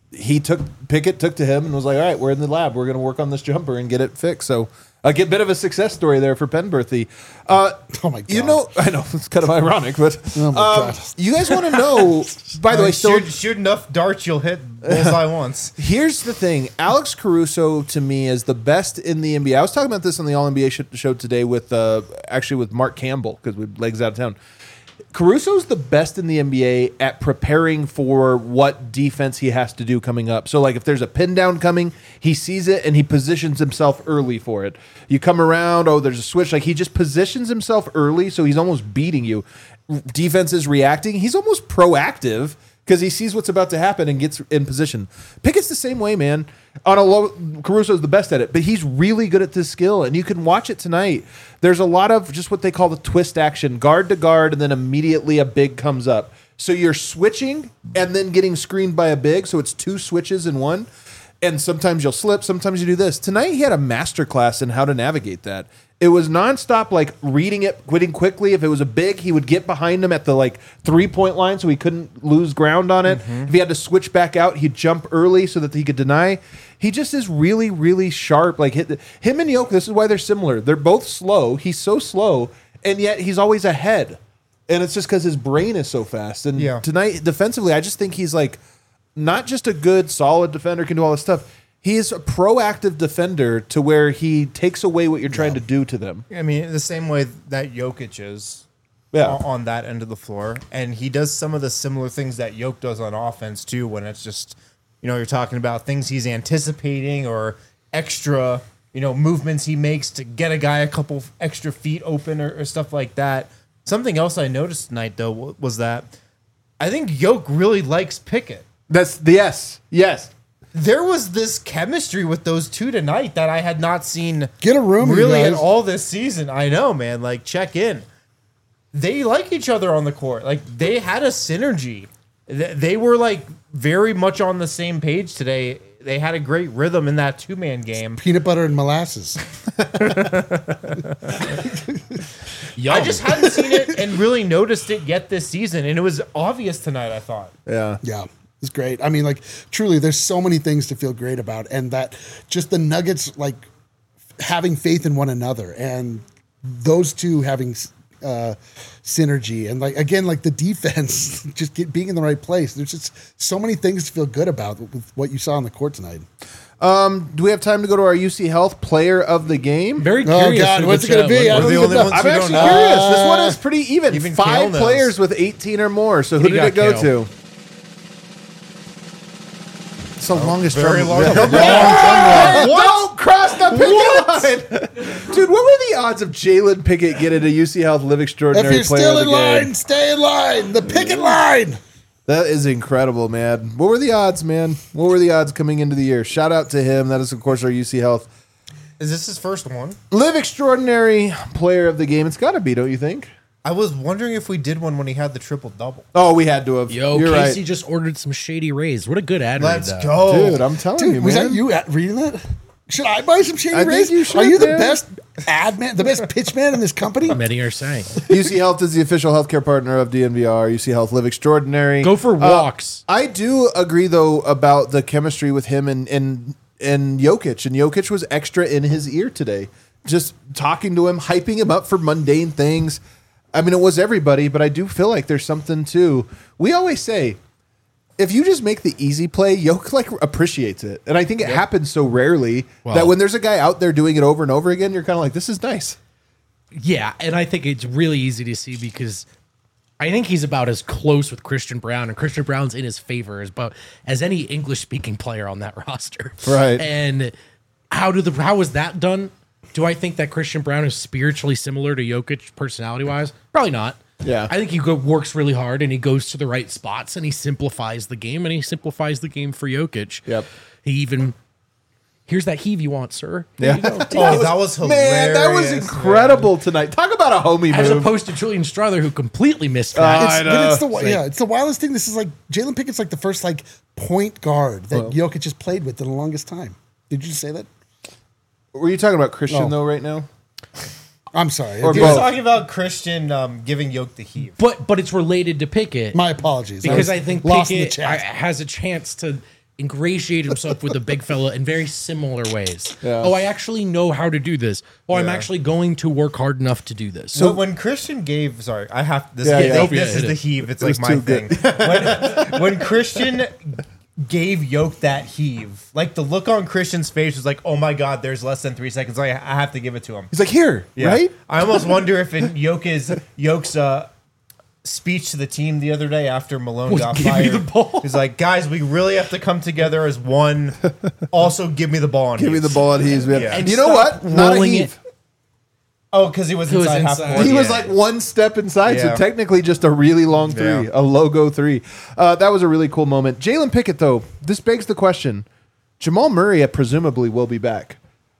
he took Pickett took to him and was like, all right, we're in the lab. We're going to work on this jumper and get it fixed. So a get bit of a success story there for Penberthy. Uh, Oh my God. You know, I know it's kind of ironic, but Oh my um, God. you guys want to know, by the way, still, shoot, shoot enough darts, you'll hit bullseye once. here's the thing. Alex Caruso, to me, is the best in the N B A. I was talking about this on the All N B A sh- show today with, uh, actually with Mark Campbell, because we legs out of town. Caruso's the best in the N B A at preparing for what defense he has to do coming up. So, like, if there's a pin down coming, he sees it and he positions himself early for it. You come around, oh, there's a switch. Like, he just positions himself early, so he's almost beating you. Defense is reacting. He's almost proactive because he sees what's about to happen and gets in position. Pickett's the same way, man. On a low, Caruso's the best at it, but he's really good at this skill, and you can watch it tonight. There's a lot of just what they call the twist action, guard to guard, and then immediately a big comes up. So you're switching and then getting screened by a big, so it's two switches in one. And sometimes you'll slip, sometimes you do this. Tonight he had a master class in how to navigate that. It was nonstop, like reading it, quitting quickly. If it was a big, he would get behind him at the like three point line so he couldn't lose ground on it. Mm-hmm. If he had to switch back out, he'd jump early so that he could deny. He just is really, really sharp. Like hit, him and Jokic, this is why they're similar. They're both slow. He's so slow, and yet he's always ahead. And it's just because his brain is so fast. And Yeah. tonight, defensively, I just think he's like not just a good, solid defender, can do all this stuff. He is a proactive defender to where he takes away what you're trying to do to them. I mean, the same way that Jokic is Yeah. on, on that end of the floor. And he does some of the similar things that Jokic does on offense, too, when it's just, you know, you're talking about things he's anticipating or extra, you know, movements he makes to get a guy a couple extra feet open or, or stuff like that. Something else I noticed tonight, though, wa- was that I think Jokic really likes Pickett. That's the yes, yes. There was this chemistry with those two tonight that I had not seen Get a room, you really at guys. all this season. I know, man. Like, check in. They like each other on the court. Like, they had a synergy. Th- They were like very much on the same page today. They had a great rhythm in that two man game. Peanut butter and molasses. Yum. I just hadn't seen it and really noticed it yet this season, and it was obvious tonight. I thought. Yeah. Yeah, it's great. I mean, like, truly, there's so many things to feel great about, and that just the Nuggets, like, having faith in one another, and those two having uh, synergy, and like again, like the defense, just get, being in the right place. There's just so many things to feel good about with what you saw on the court tonight. Do we have time to go to our U C Health Player of the Game? Very Oh, curious. God, who what's the it gonna chat- be? I what- don't the even only know. ones I'm we actually don't know. curious. This one is pretty even. Even Five Kale knows. players with eighteen or more. So who Who did you it go got, to? It's the longest very drum- long Yeah. drum- Hey, don't cross the picket line. Dude, what were the odds of Jalen Pickett getting a U C Health Live If Extraordinary you're Player still of in the line, Game? stay in line. The picket line. That is incredible, man. What were the odds, man? What were the odds coming into the year? Shout out to him. That is, of course, our U C Health Is this his first one? Live Extraordinary Player of the Game. It's got to be, don't you think? I was wondering if we did one when he had the triple double. Oh, we had to have. Yo, You're Casey right. just ordered some Shady Rays. What a good ad read, Let's though. go, Dude, I'm telling Dude, you, was man. that you at- reading that? Should I buy some Shady I think Rays? you should, Are you the man. best ad man, the best pitch man in this company? Many are saying. U C Health is the official healthcare partner of D N V R. U C Health Live Extraordinary. Go for Uh, walks. I do agree, though, about the chemistry with him and and and Jokic. And Jokic was extra in his ear today, just talking to him, hyping him up for mundane things. I mean, it was everybody, but I do feel like there's something too. We always say, if you just make the easy play, Jokic like appreciates it, and I think it happens so rarely Well- that when there's a guy out there doing it over and over again, you're kind of like, this is nice. Yeah, and I think it's really easy to see because I think he's about as close with Christian Brown, and Christian Brown's in his favor as about as any English-speaking player on that roster. Right. And how do the how was that done? Do I think that Christian Brown is spiritually similar to Jokic personality-wise? Probably not. Yeah. I think he go, works really hard and he goes to the right spots and he simplifies the game and he simplifies the game for Jokic. Yep. He even here's that heave you want, sir. Here Yeah. you go. Oh, that was hilarious. Man, that was incredible tonight. Talk about a homie As move. opposed to Julian Strother, who completely missed Uh, that. It's, I but know. it's the It's yeah, like- it's the wildest thing. This is like Jalen Pickett's like the first like point guard that Well. Jokic has played with in the longest time. Did you just say that? Were you talking about Christian, No. though, right now? I'm sorry. Or He It- was both. talking about Christian um, giving Yoke the heave. but but it's related to Pickett My apologies. because was I think lost in the Pickett chat. I- has a chance to ingratiate himself with the big fella in very similar ways. Yeah. Oh, I actually know how to do this. Oh, I'm Yeah. actually going to work hard enough to do this. So when Christian gave, sorry, I have this. Yeah, this, yeah. this Yeah, is hit the it. heave. It's It was like my too thing. good. when, when Christian gave Yoke that heave, like the look on Christian's face was like, "Oh my God, there's less than three seconds. I, I have to give it to him." He's like, here, Yeah. right? I almost wonder if in Yoke's Yoke's uh, speech to the team the other day after Malone got give me fired, the ball. he's like, "Guys, we really have to come together as one. Also, give me the ball. On Give me heaves." the ball and he's man. Yeah. And you know what? Not a rolling heave. it. Oh, because he was He was inside half inside. court. He was Yeah. like one step inside, Yeah. so technically just a really long three, Yeah. a logo three. Uh, that was a really cool moment. Jalen Pickett, though, this begs the question: Jamal Murray uh, presumably will be back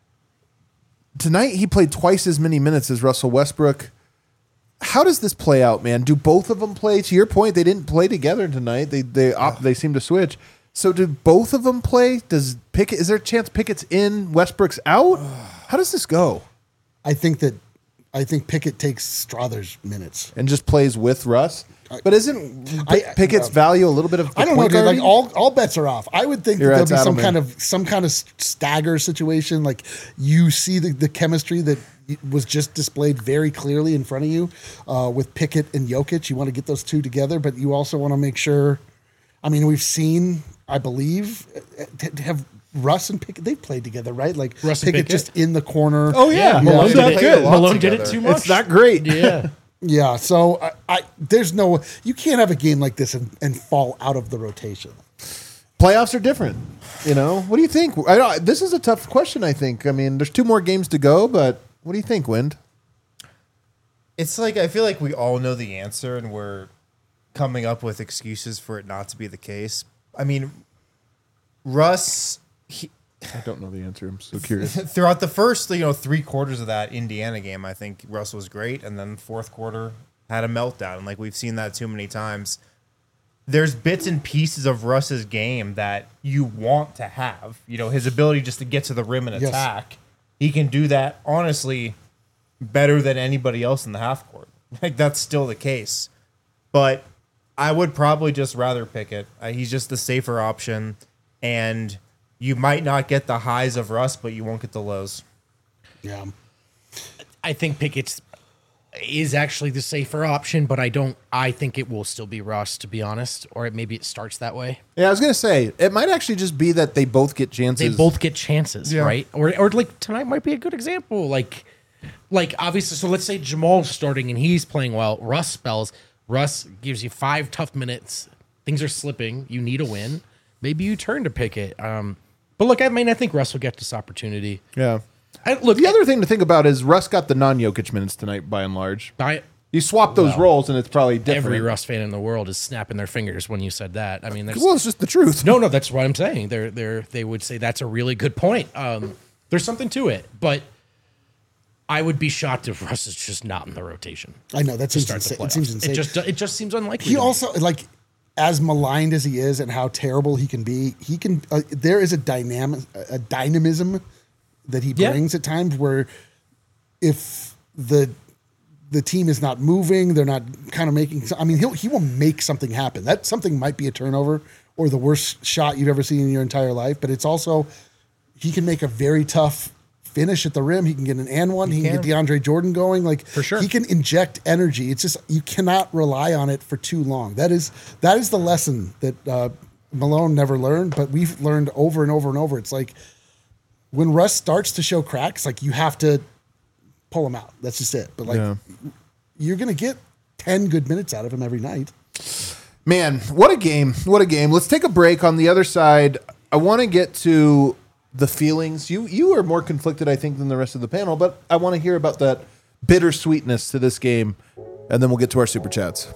tonight. He played twice as many minutes as Russell Westbrook. How does this play out, man? Do both of them play? To your point, they didn't play together tonight. They they op, they seem to switch. So do both of them play? Does Pickett? Is there a chance Pickett's in, Westbrook's out? How does this go? I think that I think Pickett takes Strother's minutes. And just plays with Russ. But isn't I- P- Pickett's uh, value a little bit of the I don't know, point dude. Like guarding? all, all bets are off. I would think You're that at there'll be some Saddleman. kind of some kind of stagger situation. Like you see the, the chemistry that was just displayed very clearly in front of you uh, with Pickett and Jokic. You want to get those two together, but you also want to make sure. I mean, we've seen, I believe, uh, to have Russ and Pickett. They've played together, right? Like Russ and Pickett Pickett? just in the corner. Oh, yeah. Malone Yeah. did it. Good. Malone did it together. too much. It's not great. Yeah. Yeah, so I, I there's no you can't have a game like this and, and fall out of the rotation. Playoffs are different. You know, what do you think? I don't, this is a tough question. I think. I mean, there's two more games to go, but what do you think, Wind? It's like I feel like we all know the answer, and we're coming up with excuses for it not to be the case. I mean, Russ. He, I don't know the answer. I'm so curious. throughout the first, you know, three quarters of that Indiana game, I think Russ was great, and then fourth quarter had a meltdown. And like we've seen that too many times. There's bits and pieces of Russ's game that you want to have. You know, his ability just to get to the rim and Yes. attack. He can do that honestly better than anybody else in the half court. Like that's still the case. But I would probably just rather Pickett. Uh, he's just the safer option, and you might not get the highs of Russ, but you won't get the lows. Yeah. I think Pickett's is actually the safer option, but I don't. I think it will still be Russ, to be honest, or it, maybe it starts that way. Yeah, I was gonna say it might actually just be that they both get chances. They both get chances, Yeah. right? Or or like tonight might be a good example. Like, like obviously, so let's say Jamal's starting and he's playing well. Russ spells. Russ gives you five tough minutes. Things are slipping. You need a win. Maybe you turn to Pickett. Um, but look, I mean, I think Russ will get this opportunity. Yeah. I, look, The other thing to think about is Russ got the non-Jokic minutes tonight, by and large. I, You swap those Well, roles, and it's probably different. every Russ fan in the world is snapping their fingers when you said that. I mean, there's Well, it's just the truth. no, no. That's what I'm saying. They're they're they would say that's a really good point. Um, there's something to it, but I would be shocked if Russ is just not in the rotation. I know that to seems start the insane. It seems playoffs. insane. It just it just seems unlikely. He to me. also like as maligned as he is and how terrible he can be. He can. Uh, there is a dynamic, a dynamism that he Yeah. brings at times where if the the team is not moving, they're not kind of making. I mean, he'll he will make something happen. That something might be a turnover or the worst shot you've ever seen in your entire life, but it's also he can make a very tough finish at the rim. He can get an and one. He, can, can. get DeAndre Jordan going. Like For sure. he can inject energy. It's just you cannot rely on it for too long. That is that is the lesson that uh, Malone never learned, but we've learned over and over and over. It's like when Russ starts to show cracks, like you have to pull him out. That's just it. But like Yeah. you're gonna get ten good minutes out of him every night. Man, what a game. What a game. Let's take a break. On the other side, I want to get to the feelings. You you are more conflicted, I think, than the rest of the panel, but I want to hear about that bittersweetness to this game, and then we'll get to our super chats.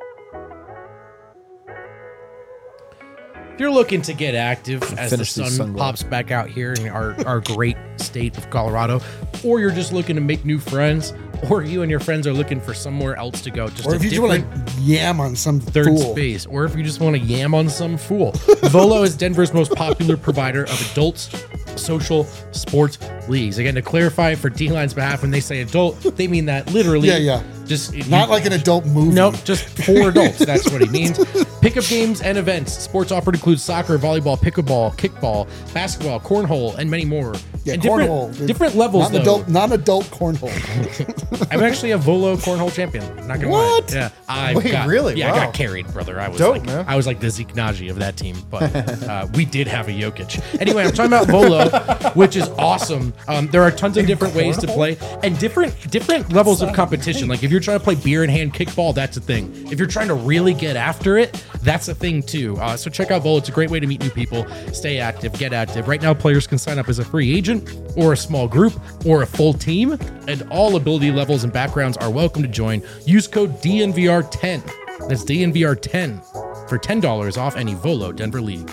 If you're looking to get active as the Finish these sun sunglasses. pops back out here in our, our great state of Colorado, or you're just looking to make new friends, or you and your friends are looking for somewhere else to go, just Or a if you just different want to yam on some third fool. space, or if you just want to yam on some fool. Volo is Denver's most popular provider of adults social sports leagues. Again, to clarify for D-Line's behalf, when they say adult, they mean that literally. Yeah, yeah. Just Not like an adult movie. Nope, just for adults. That's what he means. Pickup games and events. Sports offered include soccer, volleyball, pickleball, kickball, basketball, cornhole, and many more. Yeah, and different, cornhole. different levels, Not though. adult, non-adult cornhole. I'm actually a Volo cornhole champion. Not gonna What? lie. Yeah, I Wait, got, really? Yeah, I Wow. got carried, brother. I was Dope, like, man. I was like the Zeke Naji of that team, but uh, we did have a Jokic. Anyway, I'm talking about Volo, which is awesome. Um, there are tons of different ways to play and different different levels of competition. Like if you're trying to play beer in hand kickball, that's a thing. If you're trying to really get after it, that's a thing too. Uh, so check out Volo. It's a great way to meet new people, stay active, get active. Right now, players can sign up as a free agent or a small group or a full team, and all ability levels and backgrounds are welcome to join. Use code D N V R ten. That's D N V R ten for ten dollars off any Volo Denver League.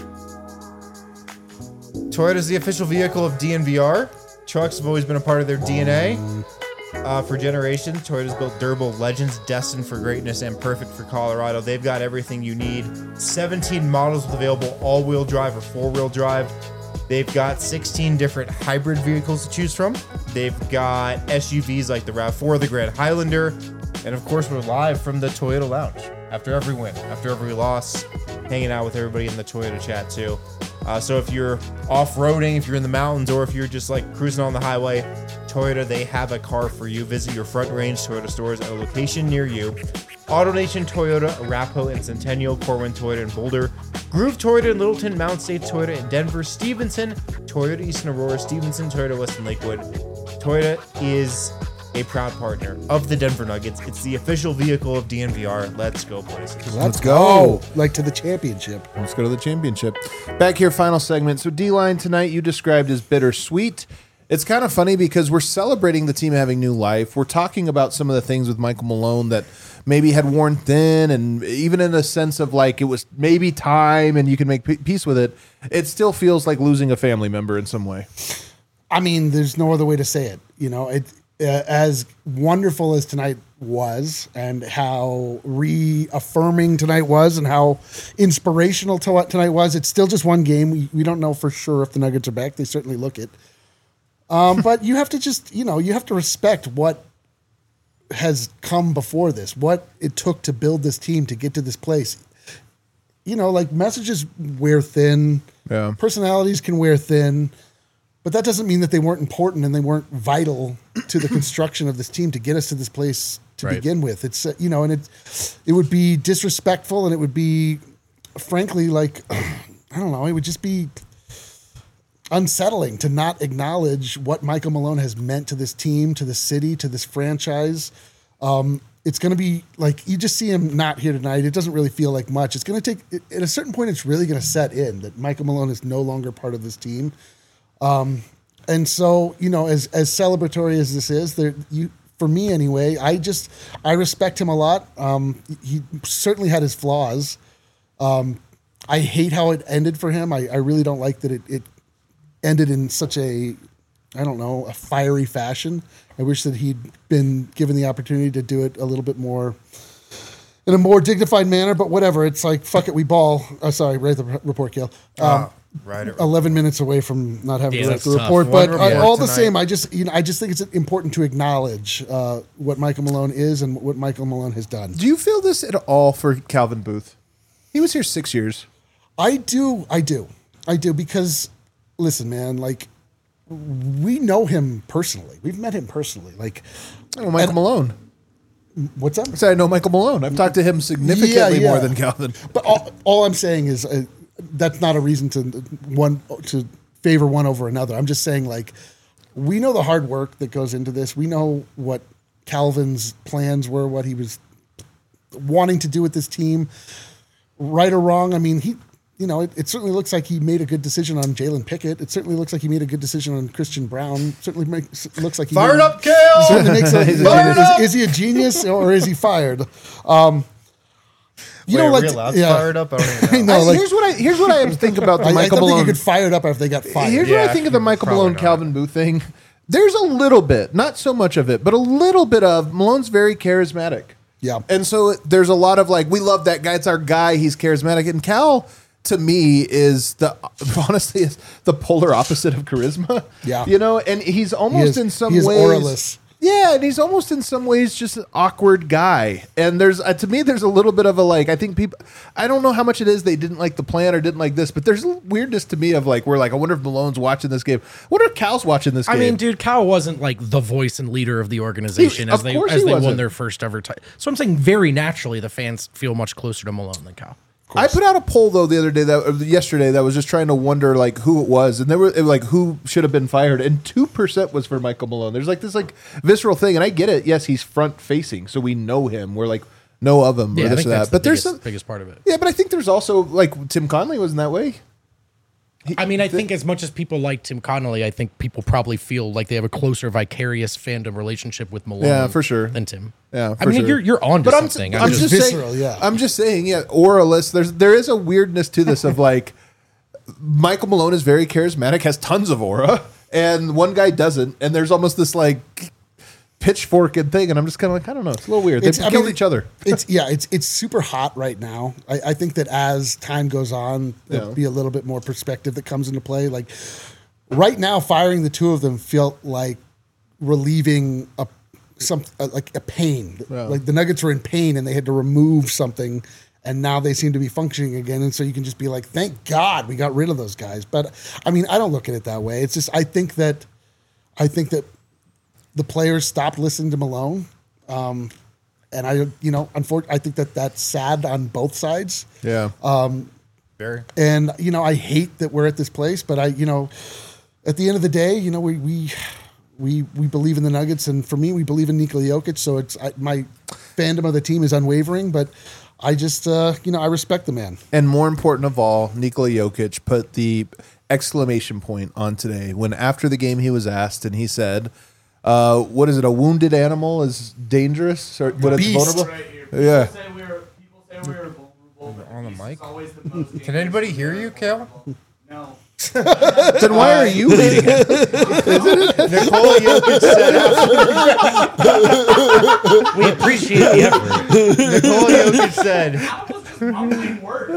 Toyota is the official vehicle of D N V R. Trucks have always been a part of their D N A. Uh, for generations, Toyota's built durable legends destined for greatness and perfect for Colorado. They've got everything you need. seventeen models with available all-wheel drive or four-wheel drive. They've got sixteen different hybrid vehicles to choose from. They've got S U Vs like the RAV four, the Grand Highlander, and of course, we're live from the Toyota Lounge after every win, after every loss, hanging out with everybody in the Toyota chat too. Uh, so if you're off-roading, if you're in the mountains, or if you're just like cruising on the highway, Toyota, they have a car for you. Visit your Front Range Toyota stores at a location near you. AutoNation Toyota, Arapahoe and Centennial, Corwin Toyota in Boulder, Groove Toyota in Littleton, Mount State Toyota in Denver, Stevenson, Toyota Eastern Aurora, Stevenson, Toyota Western Lakewood. Toyota is a proud partner of the Denver Nuggets. It's the official vehicle of D N V R. Let's go, boys. Let's go. Like to the championship. Let's go to the championship. Back here, final segment. So D-line tonight you described as bittersweet. It's kind of funny because we're celebrating the team having new life. We're talking about some of the things with Michael Malone that maybe had worn thin, and even in a sense of like it was maybe time and you can make p- peace with it, it still feels like losing a family member in some way. I mean, there's no other way to say it. You know, it uh, as wonderful as tonight was, and how reaffirming tonight was, and how inspirational to- tonight was. It's still just one game. We, we don't know for sure if the Nuggets are back. They certainly look it. Um, but you have to just, you know, you have to respect what has come before this, what it took to build this team to get to this place. You know, like messages wear thin, Yeah. personalities can wear thin, but that doesn't mean that they weren't important and they weren't vital to the construction of this team to get us to this place to Right. begin with. It's, uh, you know, and it, it would be disrespectful, and it would be, frankly, like, I don't know, it would just be unsettling to not acknowledge what Michael Malone has meant to this team, to the city, to this franchise. Um, it's going to be like, you just see him not here tonight. It doesn't really feel like much. It's going to take, at a certain point, it's really going to set in that Michael Malone is no longer part of this team. Um, and so, you know, as, as celebratory as this is, there, you, for me anyway, I just, I respect him a lot. Um, he certainly had his flaws. Um, I hate how it ended for him. I, I really don't like that it, it ended in such a, I don't know, a fiery fashion. I wish that he'd been given the opportunity to do it a little bit more, in a more dignified manner, but whatever. It's like, fuck it, we ball. Oh, sorry, write the report, Gil. Um, Uh, right. it- eleven minutes away from not having Yeah, to write that's the tough. report, One but uh, report all the tonight. same, I just, you know, I just think it's important to acknowledge uh, what Michael Malone is and what Michael Malone has done. Do you feel this at all for Calvin Booth? He was here six years. I do, I do, I do, because listen, man, like, we know him personally. We've met him personally. Like, Oh, Michael And- Malone. what's up? I said I know Michael Malone. I've talked to him significantly Yeah, more yeah. than Calvin. But all, all I'm saying is uh, that's not a reason to one to favor one over another. I'm just saying, like, we know the hard work that goes into this. We know what Calvin's plans were, what he was wanting to do with this team, right or wrong. I mean, he, you know, it, it certainly looks like he made a good decision on Jalen Pickett. It certainly looks like he made a good decision on Christian Brown. It certainly makes, looks like he Fired made, up, Kale! certainly makes a, He's a is, genius. is he a genius or is he fired? Um, you Wait, know, are like, we allowed yeah. fired up? I don't even I know. know, like, here's what I here's what I think about the I, I Michael don't think Malone. you could fire it up if they got fired. Here's what Yeah, I think of the Michael probably Malone not. Calvin Booth thing. There's a little bit, not so much of it, but a little bit of Malone's very charismatic. Yeah. And so there's a lot of like, we love that guy. It's our guy. He's charismatic. And Cal, to me, is the honestly is the polar opposite of charisma. Yeah. You know, and he's almost is- in some he is ways auraless. Yeah, and he's almost in some ways just an awkward guy. And there's uh, to me, there's a little bit of a like. I think people. I don't know how much it is they didn't like the plan or didn't like this, but there's a weirdness to me of like we're like I wonder if Malone's watching this game. I wonder if Cal's watching this I game. mean, dude, Cal wasn't like the voice and leader of the organization He- as of they course as he they won wasn't. their first ever title. So I'm saying very naturally the fans feel much closer to Malone than Cal. I put out a poll though the other day that uh, yesterday that was just trying to wonder like who it was, and there were it was, like who should have been fired, and two percent was for Michael Malone. There's like this like visceral thing, and I get it. Yes, he's front facing, so we know him. We're like know of him Yeah, or I this think or that's that. But the there's biggest, some biggest part of it. yeah, but I think there's also like Tim Conley wasn't that way. I mean, I think as much as people like Tim Connolly, I think people probably feel like they have a closer vicarious fandom relationship with Malone. Yeah, for sure. Than Tim. Yeah, I for mean, sure. you're you're on to But I'm, something. I'm I'm just, just, Visceral, saying, yeah. I'm just saying, yeah, auralist. There's there is a weirdness to this of like Michael Malone is very charismatic, has tons of aura, and one guy doesn't, and there's almost this like pitchfork and thing, and I'm just kind of like, I don't know, it's a little weird. They It's- I killed mean, each other. It's yeah, it's it's super hot right now. I, I think that as time goes on, there'll Yeah. be a little bit more perspective that comes into play. Like right now, firing the two of them felt like relieving a some uh, like a pain. Yeah. Like the Nuggets were in pain and they had to remove something, and now they seem to be functioning again. And so you can just be like, thank God we got rid of those guys. But I mean, I don't look at it that way. It's just I think that I think that the players stopped listening to Malone. Um, and I, you know, unfortunately, I think that that's sad on both sides. Yeah. Very. And you know, I hate that we're at this place, but I, you know, at the end of the day, you know, we we we we believe in the Nuggets, and for me, we believe in Nikola Jokic. So it's I, my fandom of the team is unwavering, but I just, uh, you know, I respect the man. And more important of all, Nikola Jokic put the exclamation point on today when after the game he was asked and he said, uh, what is it, a wounded animal is dangerous? Or what it's Beast. vulnerable? Right here. People Yeah. say we are, people say we are vulnerable. but On the beast mic? is always the most Can anybody hear you, Kale? No. Then why are you leading it? Nikola Jokic said. we appreciate the effort. Nikola Jokic said. I was just mumbling words.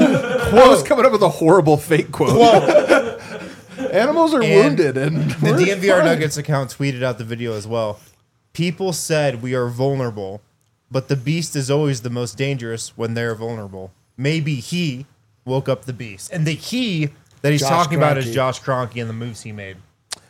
I was coming up with a horrible fake quote. Animals are And wounded, and The we're D N V R fine. Nuggets account tweeted out the video as well. People said we are vulnerable, but the beast is always the most dangerous when they're vulnerable. Maybe he woke up the beast. And the he that he's Josh talking about is Kroenke. Josh Kroenke and the moves he made.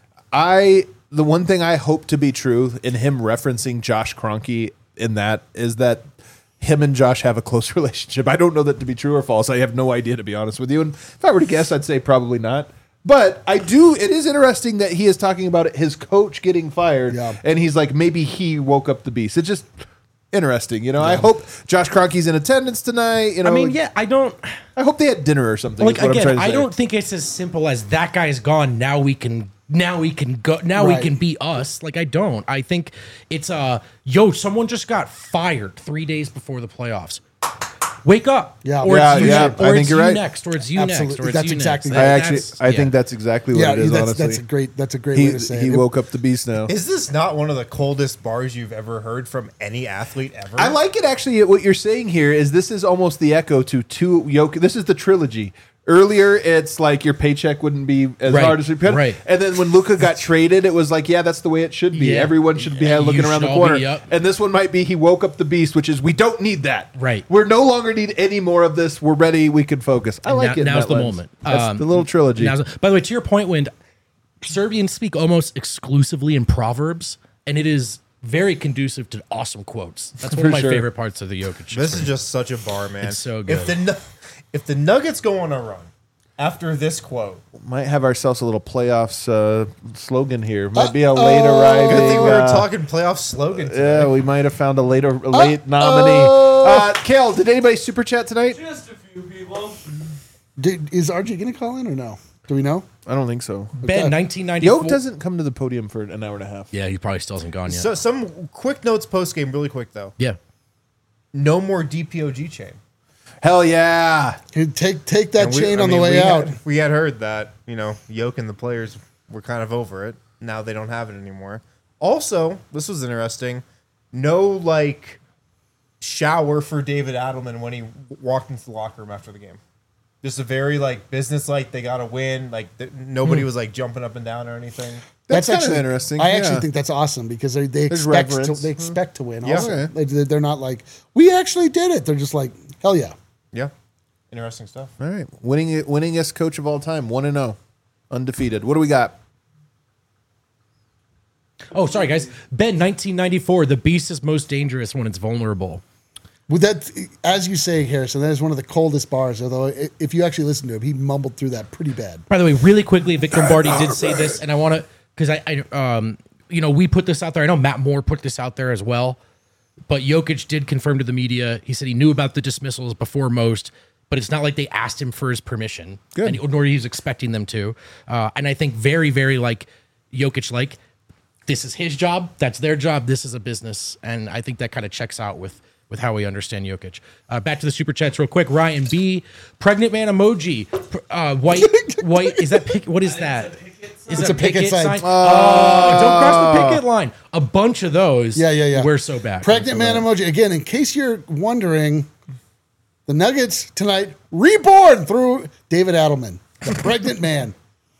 I the one thing I hope to be true in him referencing Josh Kroenke in that is that him and Josh have a close relationship. I don't know that to be true or false. I have no idea, to be honest with you. And if I were to guess, I'd say probably not. But I do. It is interesting that he is talking about his coach getting fired, Yeah. and he's like, maybe he woke up the beast. It's just interesting, you know. I hope Josh Kroenke's in attendance tonight. You know, I mean, yeah, I don't I hope they had dinner or something. like is what I'm again. trying to I say. don't think it's as simple as that guy's gone. Now we can. Now we can go. Now Right. we can be us. Like I don't. I think it's uh yo. Someone just got fired three days before the playoffs. Wake up. Yeah. Or Yeah, it's you, yeah, Or I think it's you're you right. next. Or it's you Absolutely. next. Or it's That's you exactly next. I right. actually, That's- I think yeah. that's exactly what Yeah, it is. that's honestly, that's a great that's a great he way to say he it. woke up the beast now. Is this not one of the coldest bars you've ever heard from any athlete ever? I like it actually. What you're saying here is this is almost the echo to two Jokic. This is the trilogy. Earlier, it's like your paycheck wouldn't be as Right, hard as we could. right. And then when Luka got traded, it was like, yeah, that's the way it should be. Yeah. Everyone should be Yeah, looking you around the should all corner. be up. And this one might be he woke up the beast, which is we don't need that. Right. We're no longer need any more of this. We're ready. We can focus. I And like now- it. in now's that the lens. moment. That's Um, the little trilogy. Now's- by the way, to your point, when Serbians speak almost exclusively in proverbs, and it is very conducive to awesome quotes. That's one For of my sure. favorite parts of the Jokic. This is just such a bar, man. It's so If good. the Nu- if the Nuggets go on a run after this quote, Might have ourselves a little playoffs uh, slogan here. Might be a late arriving. good thing we were uh, talking playoff slogan today. Yeah, we might have found a later a late nominee. Uh, Kale, did anybody super chat tonight? Just a few people. Did, is R J going to call in or no? Do we know? I don't think so. Ben, Okay. nineteen ninety-four. Yoke doesn't come to the podium for an hour and a half. Yeah, he probably still hasn't gone yet. So some quick notes post game, really quick though. yeah. No more D P O G chain. Hell yeah. Hey, Take take that And we- chain I on mean, the way we out. Had, we had heard that, you know, Yoke and the players were kind of over it. Now they don't have it anymore. Also, this was interesting. No, like, shower for David Adelman when he walked into the locker room after the game. Just a very like business like they got to win. Like th- nobody was like jumping up and down or anything. That's, kind actually of interesting. I actually yeah. think that's awesome because they, they There's expect to, reverence. they expect to win. Yeah. Also, Okay. they, they're not like we actually did it. They're just like hell yeah. Yeah, interesting stuff. All right, winning winningest coach of all time, one and zero, undefeated. What do we got? Oh, sorry, guys. Ben, nineteen ninety-four. The beast is most dangerous when it's vulnerable. With that, as you say, Harrison, that is one of the coldest bars. Although i- if you actually listen to him, he mumbled through that pretty bad. By the way, really quickly, Vic Lombardi did say this, and I want to because I, I, um, you know, we put this out there. I know Matt Moore put this out there as well, but Jokic did confirm to the media. He said he knew about the dismissals before most, but it's not like they asked him for his permission, Good. and, nor he was expecting them to. Uh, and I think very, very like Jokic, like this is his job, that's their job, this is a business, and I think that kind of checks out with. With how we understand Jokic. Uh, back to the super chats real quick. Ryan B, pregnant man emoji. Pr- Uh, white, white. Is that pick? What is that? Is It's that a picket sign. Oh, don't cross the picket line. A bunch of those. Yeah, yeah, yeah. We're so bad. Pregnant man emoji. Again, in case you're wondering, the Nuggets tonight reborn through David Adelman, the pregnant man.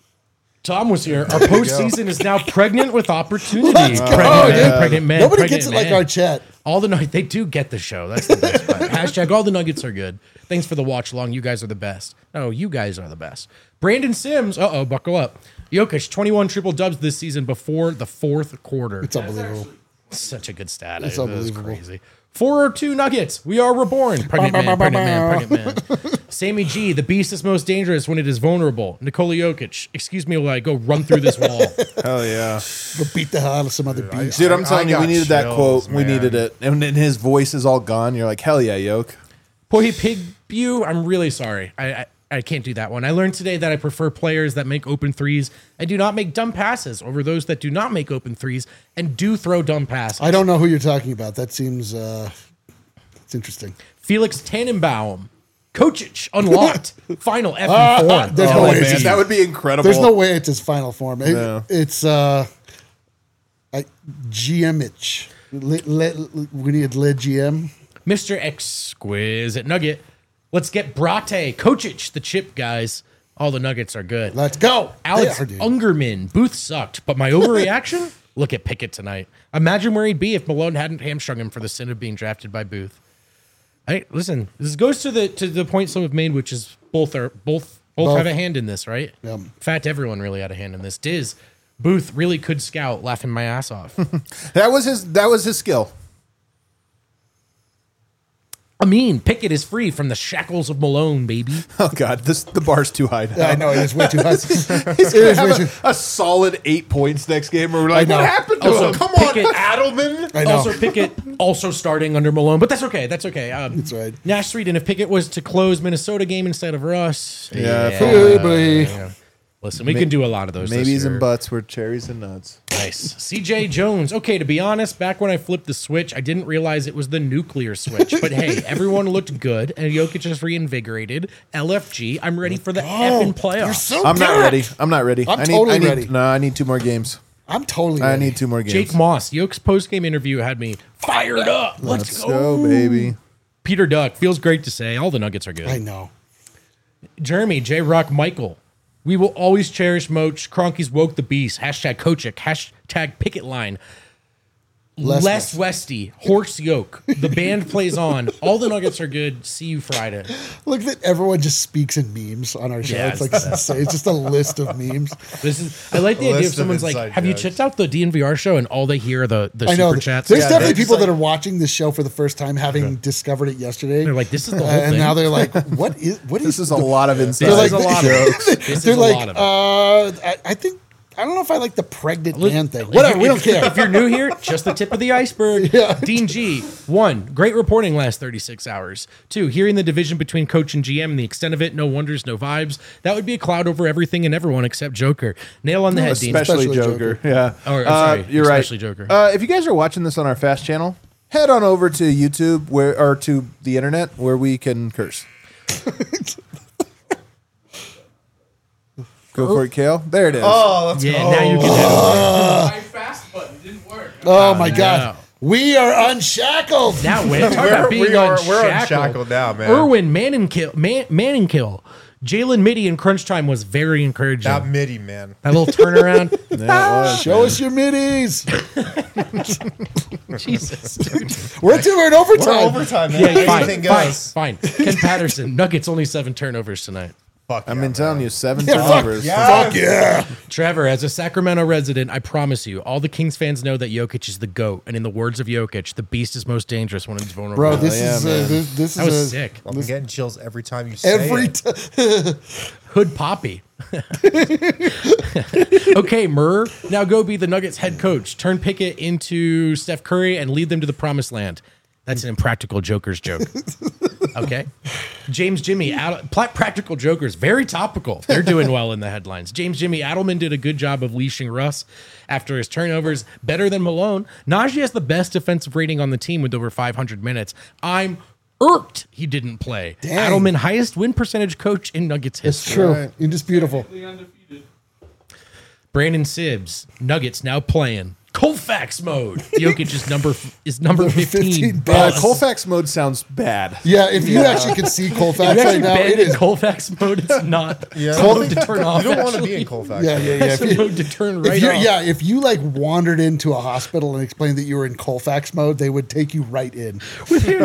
Tom was here. Our postseason is now pregnant with opportunity. Let's go, pregnant man, dude. pregnant man. Nobody pregnant gets it man. like our chat. All the Nuggets, they do get the show. That's the best part. Hashtag all the Nuggets are good. Thanks for the watch along. You guys are the best. No, you guys are the best. Brandon Sims. Uh oh, buckle up. Jokic, twenty-one triple dubs this season before the fourth quarter. It's unbelievable. Such a good stat. It's It was unbelievable. crazy. four oh two Nuggets. We are reborn. Pregnant man, pregnant man, pregnant man. Sammy G, the beast is most dangerous when it is vulnerable. Nikola Jokic, excuse me while I go run through this wall. Hell yeah, Go beat the hell out of some other beast. dude! I'm I telling you, we got needed that chills, quote. We man. needed it, and then his voice is all gone. You're like, hell yeah, Yoke. Boy, Pig Bew, I'm really sorry. I, I I can't do that one. I learned today that I prefer players that make open threes and do not make dumb passes over those that do not make open threes and do throw dumb passes. I don't know who you're talking about. That seems uh, it's interesting. Felix Tannenbaum, Kočić unlocked, final F form. There's no Oh way man, it's his, that would be incredible. there's no way it's his final form. It- No. It's uh, I, G M itch. Le, le, we need Le G M. Mister Exquisite Nugget. Let's get Brate, Kočić, the chip guys. All the Nuggets are good. Let's go. Alex They are, dude. Ungerman, Booth sucked, but my overreaction? Look at Pickett tonight. Imagine where he'd be if Malone hadn't hamstrung him for the sin of being drafted by Booth. Hey, listen, this goes to the to the point some have made, which is both are both both, Both. have a hand in this, right? Yep. In fact, everyone really had a hand in this. Diz, Booth really could scout, laughing my ass off. That was his. That was his skill. I mean, Pickett is free from the shackles of Malone, baby. Oh god, this the bar's too high. Now. I know it is way too high. He's It gonna is way have too- a, a solid eight points next game. Where we're like, know. what happened to Also, him? Come Pickett- on, Adelman. I know. Also, Pickett also starting under Malone, but that's okay. That's okay. Um, That's right. Nash Street, and if Pickett was to close Minnesota game instead of Russ, Yeah, yeah, Hey, boy. yeah. Listen, we can do a lot of those. this Maybes year. and butts were cherries and nuts. Nice. C J Jones. Okay, to be honest, back when I flipped the switch, I didn't realize it was the nuclear switch. But hey, everyone looked good, and Jokic is reinvigorated. L F G, I'm ready for the effing playoffs. You're so I'm not good. ready. I'm not ready. I'm I need, totally I need, ready. No, I need two more games. I'm totally. I ready. need two more games. Jake Moss, Yoke's post-game interview had me fired up. Let's, Let's go. go, baby. Peter Duck, feels great to say. All the Nuggets are good. I know. Jeremy, J Rock, Michael. We will always cherish Moach. Cronky's woke the beast. Hashtag Kochick. Hashtag picket line. Les Les Westy. Horse Yoke. The band plays on. All the Nuggets are good. See you Friday. Look that everyone just speaks in memes on our show. Yeah, it's it's like the best. it's just a list of memes. This is. I like the A idea of list of someone's like, inside "Have you jokes. checked out the D N V R show?" And all they hear are the the I know. super chats. There's Yeah, definitely they're people just that are watching this show for the first time, having discovered it yesterday. They're like, "This is the Uh, whole and thing." now they're like, "What is? What This is?" is a lot of inside This is a like- lot of jokes. This is They're a like, lot of it. uh, I, I think I don't know if I like the pregnant Look, man thing. if Whatever, you- we don't if- care. If you're new here, just the tip of the iceberg. Yeah. Dean G, one, great reporting last thirty-six hours. Two, hearing the division between coach and G M and the extent of it, no wonders, no vibes. That would be a cloud over everything and everyone except Joker. Nail on the head, Dean. Especially, Especially Joker. Joker. Yeah. Oh, I'm Uh, sorry. You're Especially right. Joker. Uh, if you guys are watching this on our Fast channel, head on over to YouTube where or to the internet where we can curse. Go for it, Kale. There it is. Oh, let's Yeah, go. now you can have My fast button didn't work. Oh my no. god, we are unshackled. Now we're talking We're- about being we are- unshackled. we're unshackled now, man. Erwin Manningkill, Man, Manningkill. Jalen Mitty in crunch time was very encouraging. That That, midi, man. little turnaround. Yeah, it was, Show man. us your middies. Jesus, dude. We're into we're in We're overtime. overtime, man. Yeah, fine, Anything fine, goes. fine. Ken Patterson, Nuggets only seven turnovers tonight. Fuck I've yeah, been telling man. you, seven Yeah, fuck turnovers. yeah. Fuck yeah. Trevor, as a Sacramento resident, I promise you, all the Kings fans know that Jokic is the GOAT. And in the words of Jokic, the beast is most dangerous when it's vulnerable. Bro, this yeah, is uh, man. this, this that was is a, sick. I'm getting chills every time you say every it. time. Hood Poppy. Okay, Murr, now go be the Nuggets head coach. Turn Pickett into Steph Curry and lead them to the promised land. That's an impractical Joker's joke. Okay. James Jimmy, Ad- pla- practical jokers, very topical. They're doing well in the headlines. James Jimmy Adelman did a good job of leashing Russ after his turnovers, better than Malone. Najee has the best defensive rating on the team with over five hundred minutes. I'm irked he didn't play. Dang. Adelman, highest win percentage coach in Nuggets It's history. true. Right. Indisputable. The undefeated. Brandon Sibbs, Nuggets now playing Colfax mode. Jokic is number is number fifteen. fifteen Uh, best. Colfax mode sounds bad. Yeah, if you actually can see Colfax If you right actually now, bend it in is. Colfax mode, it's not. Yeah. It's a mode to turn off. You don't want to be actually. in Colfax. Yeah, yeah, yeah. It's If a you, mode to turn if right you off. yeah, if you like wandered into a hospital and explained that you were in Colfax mode, they would take you right in. They're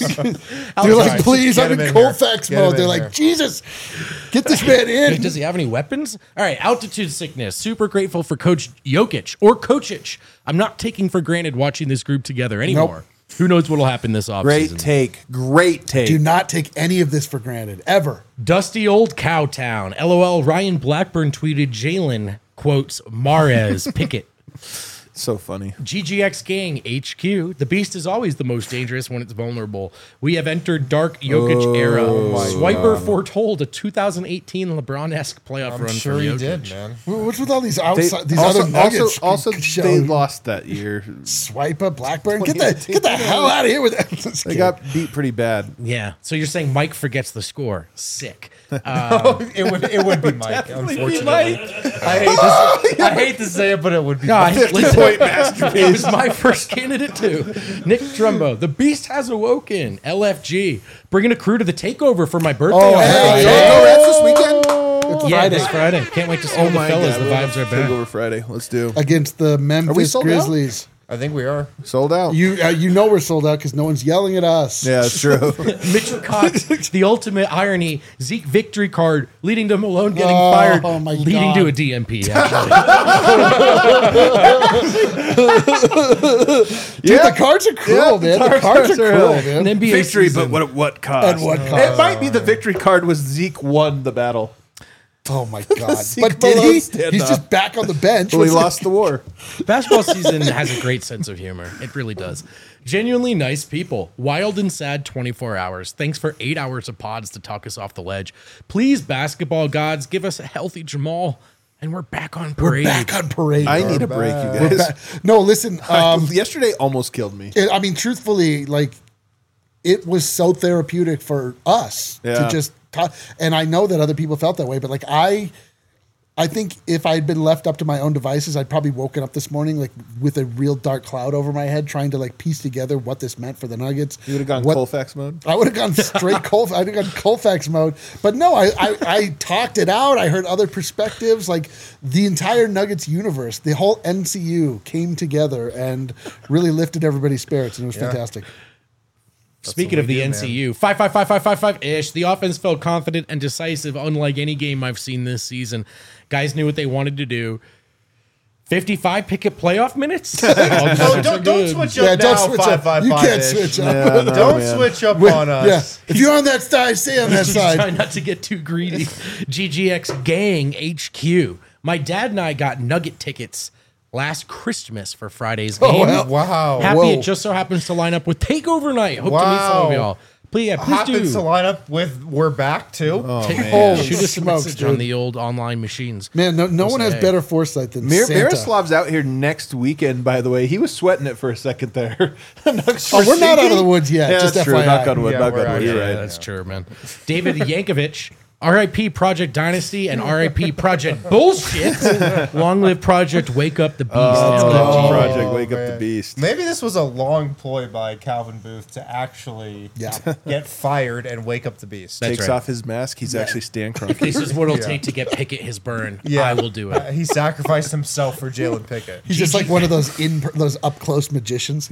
like, please, Get I'm him in in Colfax here. Get him mode. They're in like, here. Jesus, get this man in. Does he have any weapons? All right, altitude sickness. Super grateful for Coach Jokic or Coachich. I'm not taking for granted watching this group together anymore. Who knows what'll happen this offseason? Great take. Great take. Do not take any of this for granted, ever. Dusty old Cowtown. LOL. Ryan Blackburn tweeted Jalen quotes Mares Pickett. So funny. G G X Gang H Q. The beast is always the most dangerous when it's vulnerable. We have entered dark Jokic era. Swiper foretold a two thousand eighteen LeBron-esque playoff I'm run sure for he Jokic. did, man. What's with all these They, outside, these also, other nuggets? also, also they shown? lost that year. Swipe up Blackburn. Get the get the hell out of here with that. Just They kidding. got beat pretty bad. Yeah. So you're saying Mike forgets the score? Sick. It would it would be Mike, unfortunately. Mike. I hate to, I hate to say it, but it would be No, I, Mike. listen, it was my first candidate too. Nick Trumbo. The beast has awoken. L F G. Bringing a crew to the takeover for my birthday. Oh, on hey, Friday. Go Reds this weekend. It's Yeah, Friday this Friday. Can't wait to see Oh all the my fellas. god, The vibes are back. Takeover Friday. Let's do. against the Memphis sold out? Grizzlies. I think we are. Sold out. You uh, you know we're sold out because no one's yelling at us. yeah, it's true. Mitchell Cox, the ultimate irony. Zeke victory card leading to Malone getting Oh, fired, oh my leading God. to a D M P. Actually. Dude, the cards are cruel, Yeah, man. The the cards, cards are are cruel, really- man. An N B A Victory, season. but what what cost? At what It cost? might be the victory card was Zeke won the battle. Oh my god! Zeke But did Malone he? stand He's up. just back on the bench. Well, he What's- lost the war. Basketball season has a great sense of humor. It really does. Genuinely nice people. Wild and sad twenty-four hours. Thanks for eight hours of pods to talk us off the ledge. Please, basketball gods, give us a healthy Jamal. And we're back on We're parade. back on parade. I bro. need a break, you We're guys. back. No, listen. Um, Yesterday almost killed me. it- I mean, truthfully, like it was so therapeutic for us Yeah. to just talk. And I know that other people felt that way, but like I, I think if I had been left up to my own devices, I'd probably woken up this morning like with a real dark cloud over my head, trying to like piece together what this meant for the Nuggets. You would have gone What- Colfax mode. I would have gone straight Colf. I'd have gone Colfax mode. But no, I, I I talked it out. I heard other perspectives. Like the entire Nuggets universe, the whole N C U came together and really lifted everybody's spirits, and it was Yeah. fantastic. Speaking what of we the do, N C U, five five five five five five ish. The offense felt confident and decisive, unlike any game I've seen this season. Guys knew what they wanted to do. fifty-five picket playoff minutes. Oh, don't, don't switch up Yeah, now. don't switch five, up. Five, You five can't ish. switch up. Yeah, no, Don't man. switch up Wait, on us. yeah, if you're on that side, stay on that Try side. not to get too greedy. G G X Gang H Q. My dad and I got Nugget tickets last Christmas for Friday's game. Oh, well. Wow. Happy Whoa. it just so happens to line up with Takeover Night. Hope to meet some Wow. of y'all. Please, yeah, please Happens do. to line up with we're back too. Take- man. Shoot us a Smokes, message dude. on the old online machines. Man, no, no We'll one has say. better foresight than Mir- Santa. Miroslav's out here next weekend, by the way. He was sweating it for a second there. Oh, we're not out of the woods yet. Yeah, just that's true. F Y I. Knock on wood. Yeah, knock we're on out wood. here. You're Yeah, right. that's true, man. David Yankovic. R I P Project Dynasty and R I P Project Bullshit. Long live Project Wake Up the Beast. Oh, L G. Project Wake Up man. the Beast. Maybe this was a long ploy by Calvin Booth to actually Yeah. get fired and wake up the beast. That's Takes right. off his mask. He's actually Stan Kroenke. This is what it'll Yeah. take to get Pickett his burn. Yeah. I will do Uh, it. he sacrificed himself for Jalen Pickett. He's just like one of those in those up close magicians. He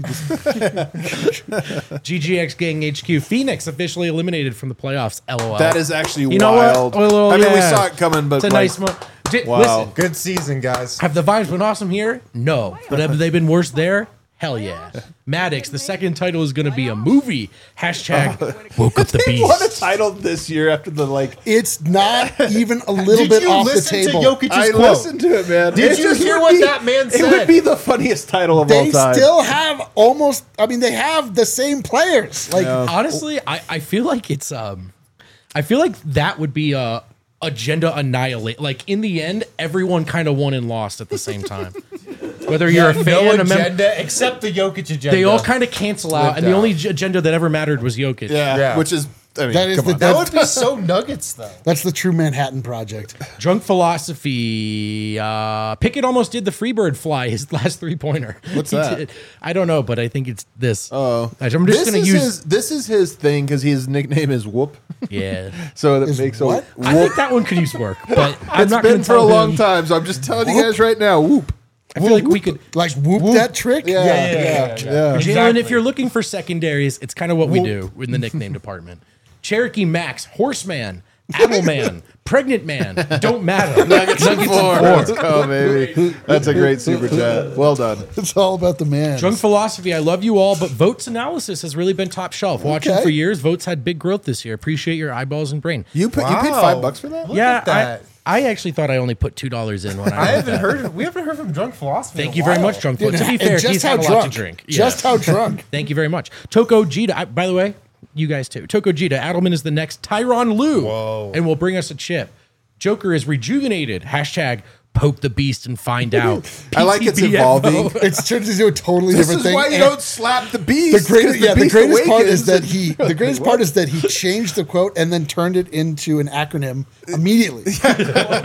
just, G G X Gang H Q. Phoenix officially eliminated from the playoffs. L O L. That is actually You know what? wild. A little- I mean, we yeah. saw it coming, but It's a like, nice one. Di- Wow. Listen, Good season, guys. have the vibes been awesome here? No. But have they been worse there? Hell yeah. Maddox, the second title is going to be a movie. Hashtag woke up the They won a beast. title this year after the like. it's not even a little Did bit you off the listen table. to Jokic's I quote? listened to it, man. Did It you just hear would what be- that man It said? would be the funniest title of all They time. still have almost. I mean, they have the same players. Like Honestly, I, I feel like it's um I feel like that would be a agenda annihilate. Like in the end, everyone kind of won and lost at the same time. Whether you're a fan, no a member, agenda except the Jokic agenda. they all kind of cancel out, Lived and the out. only ag- agenda that ever mattered was Jokic. yeah, Yeah. which is I mean, That is come the- on. that- That would be so Nuggets though. that's the true Manhattan Project. Drunk philosophy. Uh, Pickett almost did the Freebird fly his last three pointer. What's that? I don't know, but I think it's this. Oh, I'm just this gonna is use. his. This is his thing because his nickname is Whoop. Yeah, So that Is makes what? a Whoop. I think that one could use work, but I'm It's not been going to for a tell long him. time, so I'm just telling you guys right now. Whoop. I feel like we could. Like whoop, that trick. Yeah, yeah, yeah, yeah, yeah. Jalen, Exactly. if you're looking for secondaries, it's kind of what we do in the nickname department. Cherokee Max, Horseman, Appleman, Pregnant Man, don't matter. Nuggets, Four. Let's go, baby. That's a great super chat. Well done. It's all about the man. Drunk philosophy, I love you all, but Votes analysis has really been top shelf. Watching Okay. for years, Votes had big growth this year. Appreciate your eyeballs and brain. You put you paid Wow. five bucks for that? Look yeah, at that. I, I actually thought I only put two dollars in when I. I haven't heard. We haven't heard from Drunk Philosophy. in Thank a you very while. much, Drunk. Dude, Votes. To be and fair, just he's how had a drunk. lot to drink. Just Yeah. how drunk. Thank you very much. Toko Jita, I, by the way, you guys too. Toko Jita, Adelman is the next Tyronn Lue Whoa. and will bring us a chip. Joker is rejuvenated. Hashtag poke the beast and find out. I like it's P T B F O. evolving. It's turned into a totally This different is thing. why you and don't slap the beast. the greatest, 'cause the yeah, the beast greatest part is awakens that and- he. The greatest part is that he changed the quote and then turned it into an acronym immediately. It's less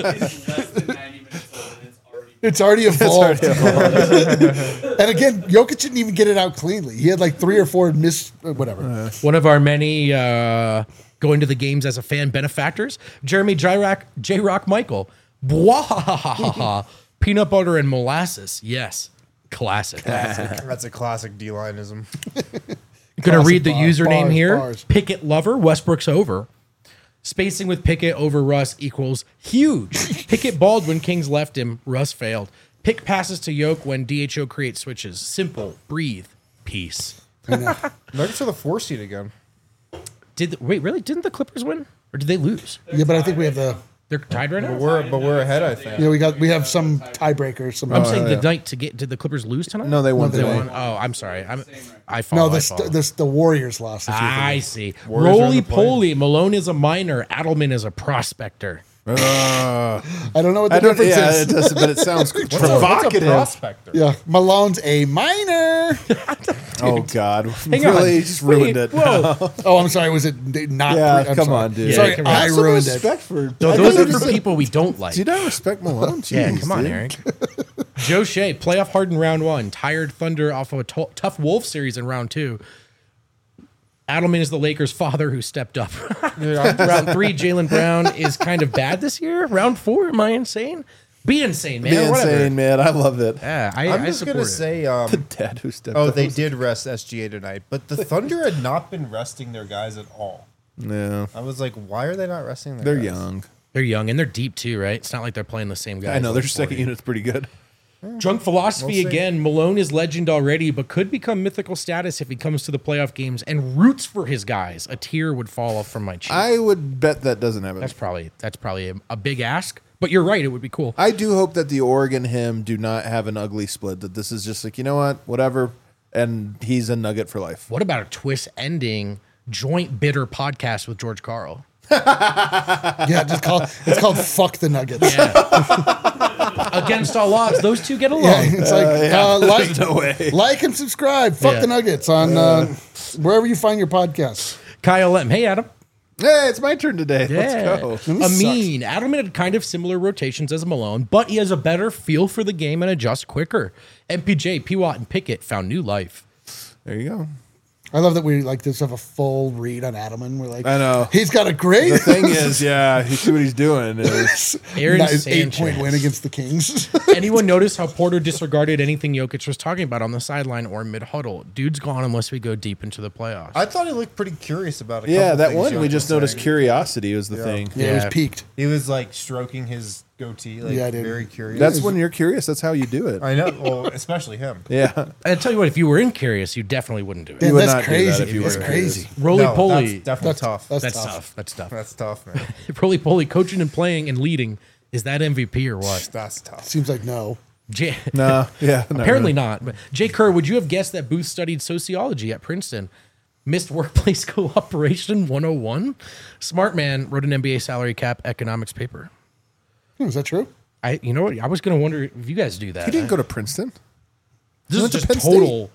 than ninety minutes old and it's already. It's already evolved. And again, Jokic didn't even get it out cleanly. He had like three or four miss, uh, whatever. One of our many uh, going to the games as a fan benefactors, Jeremy J-Rock, J-Rock Michael. Bwahahaha. Peanut butter and molasses. Yes. Classic. That's a classic D-lineism. Gonna Classic read the bar- username bars, here. bars. Pickett lover. Westbrook's over. Spacing with Pickett over Russ equals huge. Pickett Baldwin, Kings left him. Russ failed. Pick passes to Yoke when D H O creates switches. Simple. Breathe. Peace. Nuggets are the four seed again. Did the, wait really? Didn't the Clippers win or did they lose? Yeah, but I think we have the. They're tied right now. We're but we're ahead, I think. Yeah, we got we have some tiebreakers. Some. I'm saying the night to get. Did the Clippers lose tonight? No, they won they today. won. Oh, I'm sorry. I'm. I no, follow. the I st- follow. the, the Warriors lost. if you I think. see. Warriors are in Roly the play. poly. Malone is a minor. Adelman is a prospector. Uh, I don't know what the I don't. difference Yeah, is. it does, but it sounds What's a, what's a provocative. prospector? Yeah, Malone's a minor. Oh God, Hang really on. just ruined Wait, it. Whoa. Oh, I'm sorry. Was it not? Yeah, I'm come sorry. on, dude. Sorry, Yeah, come on. I Have some ruined it. respect for. No, I those thought are you for said- people we don't like. Do you not respect Malone? Yeah, Jeez, come on, dude. Eric. Joe Shea, playoff hard in round one. Tired Thunder off of a to- tough Wolf series in round two. Adelman is the Lakers' father who stepped up. round three, Jaylen Brown is kind of bad this year. Round four, am I insane? Be insane, man. Be Whatever. insane, man. I love it. Yeah, I, I'm I just support gonna it. say, um, The dad who stepped oh, up. they did rest S G A tonight, but the Thunder had not been resting their guys at all. No, I was like, why are they not resting their they're guys? young. They're young and they're deep too, right? It's not like they're playing the same guys. I know like their second forty. unit's pretty good. Drunk philosophy We'll see. again. Malone is legend already, but could become mythical status if he comes to the playoff games and roots for his guys. A tear would fall off from my cheek. I would bet that doesn't happen. that's probably that's probably a, a big ask, but you're right. It would be cool. I do hope that the Oregon him do not have an ugly split. That this is just like, you know what, whatever, and he's a Nugget for life. What about a twist ending joint bitter podcast with George Carl? Yeah, just call it's called "Fuck the Nuggets." Against all odds, those two get along. Yeah, it's like uh, like, no way. like and subscribe. Fuck Yeah. the Nuggets on uh, wherever you find your podcasts. Kyle M. Hey, Adam. Hey, it's my turn today. Yeah. Let's go. Amin. Adelman had kind of similar rotations as Malone, but he has a better feel for the game and adjusts quicker. M P J, P. Watt, and Pickett found new life. There you go. I love that we like just have a full read on Adelman. We're like, I know. he's got a great The thing is, yeah, you see what he's doing. Is, Aaron nice Sanchez. eight point win against the Kings. Anyone notice how Porter disregarded anything Jokic was talking about on the sideline or mid huddle? Dude's gone unless we go deep into the playoffs. I thought he looked pretty curious about it. yeah, that one we just noticed curiosity was the thing. yeah, it was Yeah. peaked. He was like stroking his goatee, like Yeah, dude. very curious. That's when you're curious. That's how you do it. I know. Well, especially him. Yeah. I tell you what, if you were in curious, you definitely wouldn't do it. Man, would that's not do that crazy. if you That's were crazy. Roly No, poly. That's definitely That's tough. That's, That's tough. tough. That's tough. That's tough, man. Roly poly, coaching and playing and leading. Is that M V P or what? That's tough. Seems like no. Jay, No. Yeah. not apparently really. not. But Jay Kerr, would you have guessed that Booth studied sociology at Princeton? Missed workplace cooperation one oh one? Smart man wrote an M B A salary cap economics paper. Hmm, is that true? I, you know what? I was going to wonder if you guys do that. He didn't go to Princeton. This is went to just Penn State. total.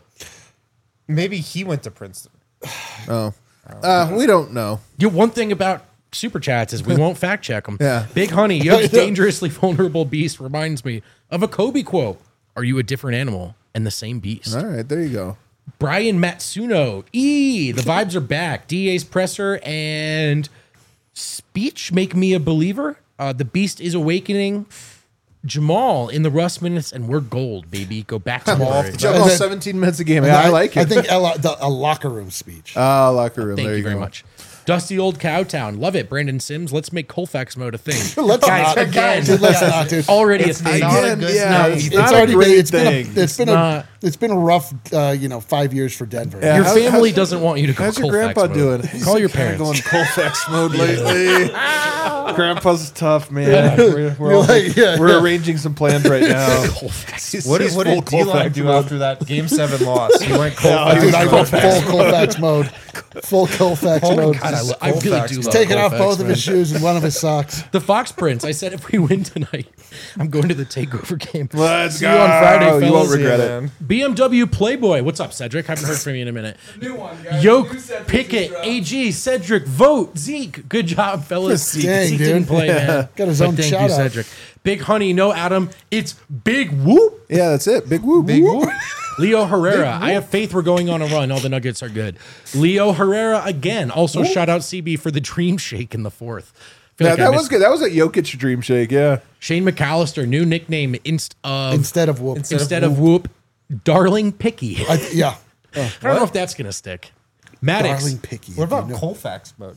Maybe he went to Princeton. Oh. Uh, we don't know. You know, one thing about super chats is we won't fact check them. Yeah. Big Honey, Yoke's dangerously vulnerable beast reminds me of a Kobe quote. Are you a different animal and the same beast? All right. There you go. Brian Matsuno. E. The vibes are back. D A's presser and speech make me a believer. Uh, the beast is awakening. Jamal in the Russ minutes, and we're gold, baby. Go back to off the the Jump And off then- seventeen minutes a game. Yeah, I like it. I think a, lo- the, a locker room speech. Ah, locker room. Thank there you very go. much. Dusty old Cowtown. Love it. Brandon Sims. Let's make Colfax mode a thing. Let's Guys, not. again, Dude, let's not, dude. already It's a thing. not a Again, good yeah, thing. it's It's not a already great been, it's been thing. a, it's been not. a it's been a rough uh, you know five years for Denver. Yeah. Your How's- family how's- doesn't want you to go How's your Colfax grandpa mode. doing? Call your kinda parents. going Colfax mode lately. Grandpa's tough, man. We're, we're, You're all- like, yeah, we're yeah. arranging some plans right now. Colfax. What, He's did- what full did D-Line Colfax do mode. after that Game seven loss? He went Oh, Colfax. dude, I mode. went full Colfax mode. Full Colfax mode. God, I, lo- I really Colfax. do He's love Taking off Colfax, both of man. his shoes and one of his socks. The Fox Prince. I said if we win tonight, I'm going to the takeover game. Let's See go. you on Friday, You won't fellas. regret Yeah, it. man. B M W Playboy. What's up, Cedric? Haven't heard from you in a minute. New one, guys. Yoke, New set Pickett, pictures A G, Cedric, Vote, Zeke. Good job, fellas. Zeke. Dang, Zeke dude. didn't play, man. Got his But own thank shout you, out. Cedric. Big Honey, no Adam. It's Big Whoop. Yeah, that's it. Big woo. Big woo. Leo Herrera. I have faith we're going on a run. All the Nuggets are good. Leo Herrera again. Also, shout out C B for the dream shake in the fourth. Feel Yeah, like I that was missed- good. That was a Jokic dream shake. Yeah. Shane McAllister, new nickname inst of Instead of whoop. instead of Whoop, Darling Picky. I I, yeah. don't know if that's gonna stick. Maddox. Darling picky. What if you about know. Colfax mode?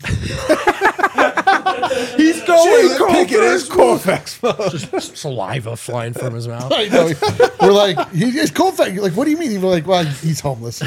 He's going. Pickett is Colfax. Just saliva flying from his mouth. I know. We're like, he is Colfax. You're like, what do you mean? We're like, well, he's homeless.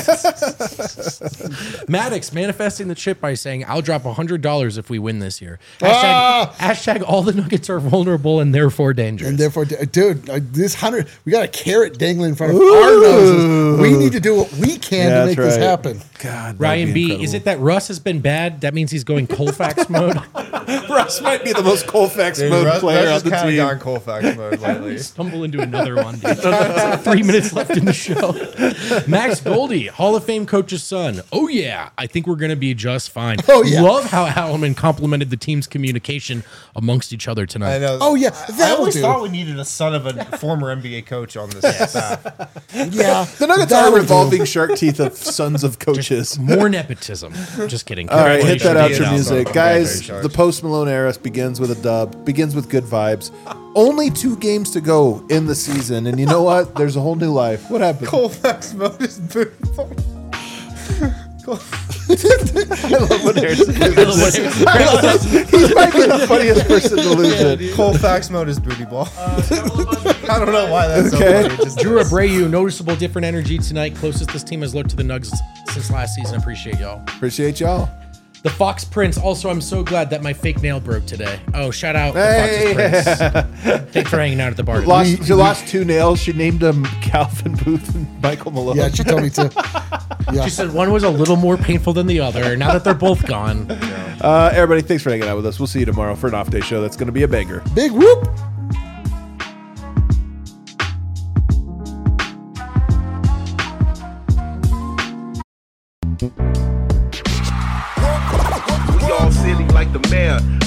Maddox manifesting the chip by saying, "I'll drop a hundred dollars if we win this year." Hashtag, Ah! hashtag all the Nuggets are vulnerable and therefore dangerous. And therefore, dude, uh, this hundred, we got a carrot dangling in front of our noses. We need to do what we can Yeah, to make that's this right. happen. God. Ryan B, is it that Russ has been bad? That means he's going Colfax mode. Russ might be the most Colfax Dude, mode Russ, player Russ on the has kind team? of gone Colfax mode lately. Stumble into another one, dude. Three minutes left in the show. Max Goldie, Hall of Fame coach's son. Oh, yeah. I think we're going to be just fine. Oh, yeah. Love how Hallman complimented the team's communication amongst each other tonight. I know. Oh, yeah, I that'll always do. thought we needed a son of a former N B A coach on this staff. Yeah. The Nuggets that'll are do. revolving shark teeth of sons of coaches. More nepotism. Just kidding. All right, hit that Congratulations, outro Ian music. Alba. Guys, Congratulations. the post Malone era begins with a dub, begins with good vibes. Only two games to go in the season, and you know what? There's a whole new life. What happened? Colfax mode is beautiful. I love when Harrison loses. He might be the funniest person to lose it. Colfax mode is booty ball. I don't know why that's Okay. so funny. It just Drew is. Abreu, noticeable different energy tonight. Closest this team has looked to the Nuggets since last season. Appreciate y'all. Appreciate y'all. The Fox Prince. Also, I'm so glad that my fake nail broke today. Oh, shout out Hey. the Fox's Prince. Thanks for hanging out at the bar. Lost, she lost two nails. She named them Calvin Booth and Michael Malone. Yeah, she told me to. Yeah. She said one was a little more painful than the other. Now that they're both gone. Uh, everybody, thanks for hanging out with us. We'll see you tomorrow for an off day show. That's going to be a banger. Big whoop. We are all silly like the mayor.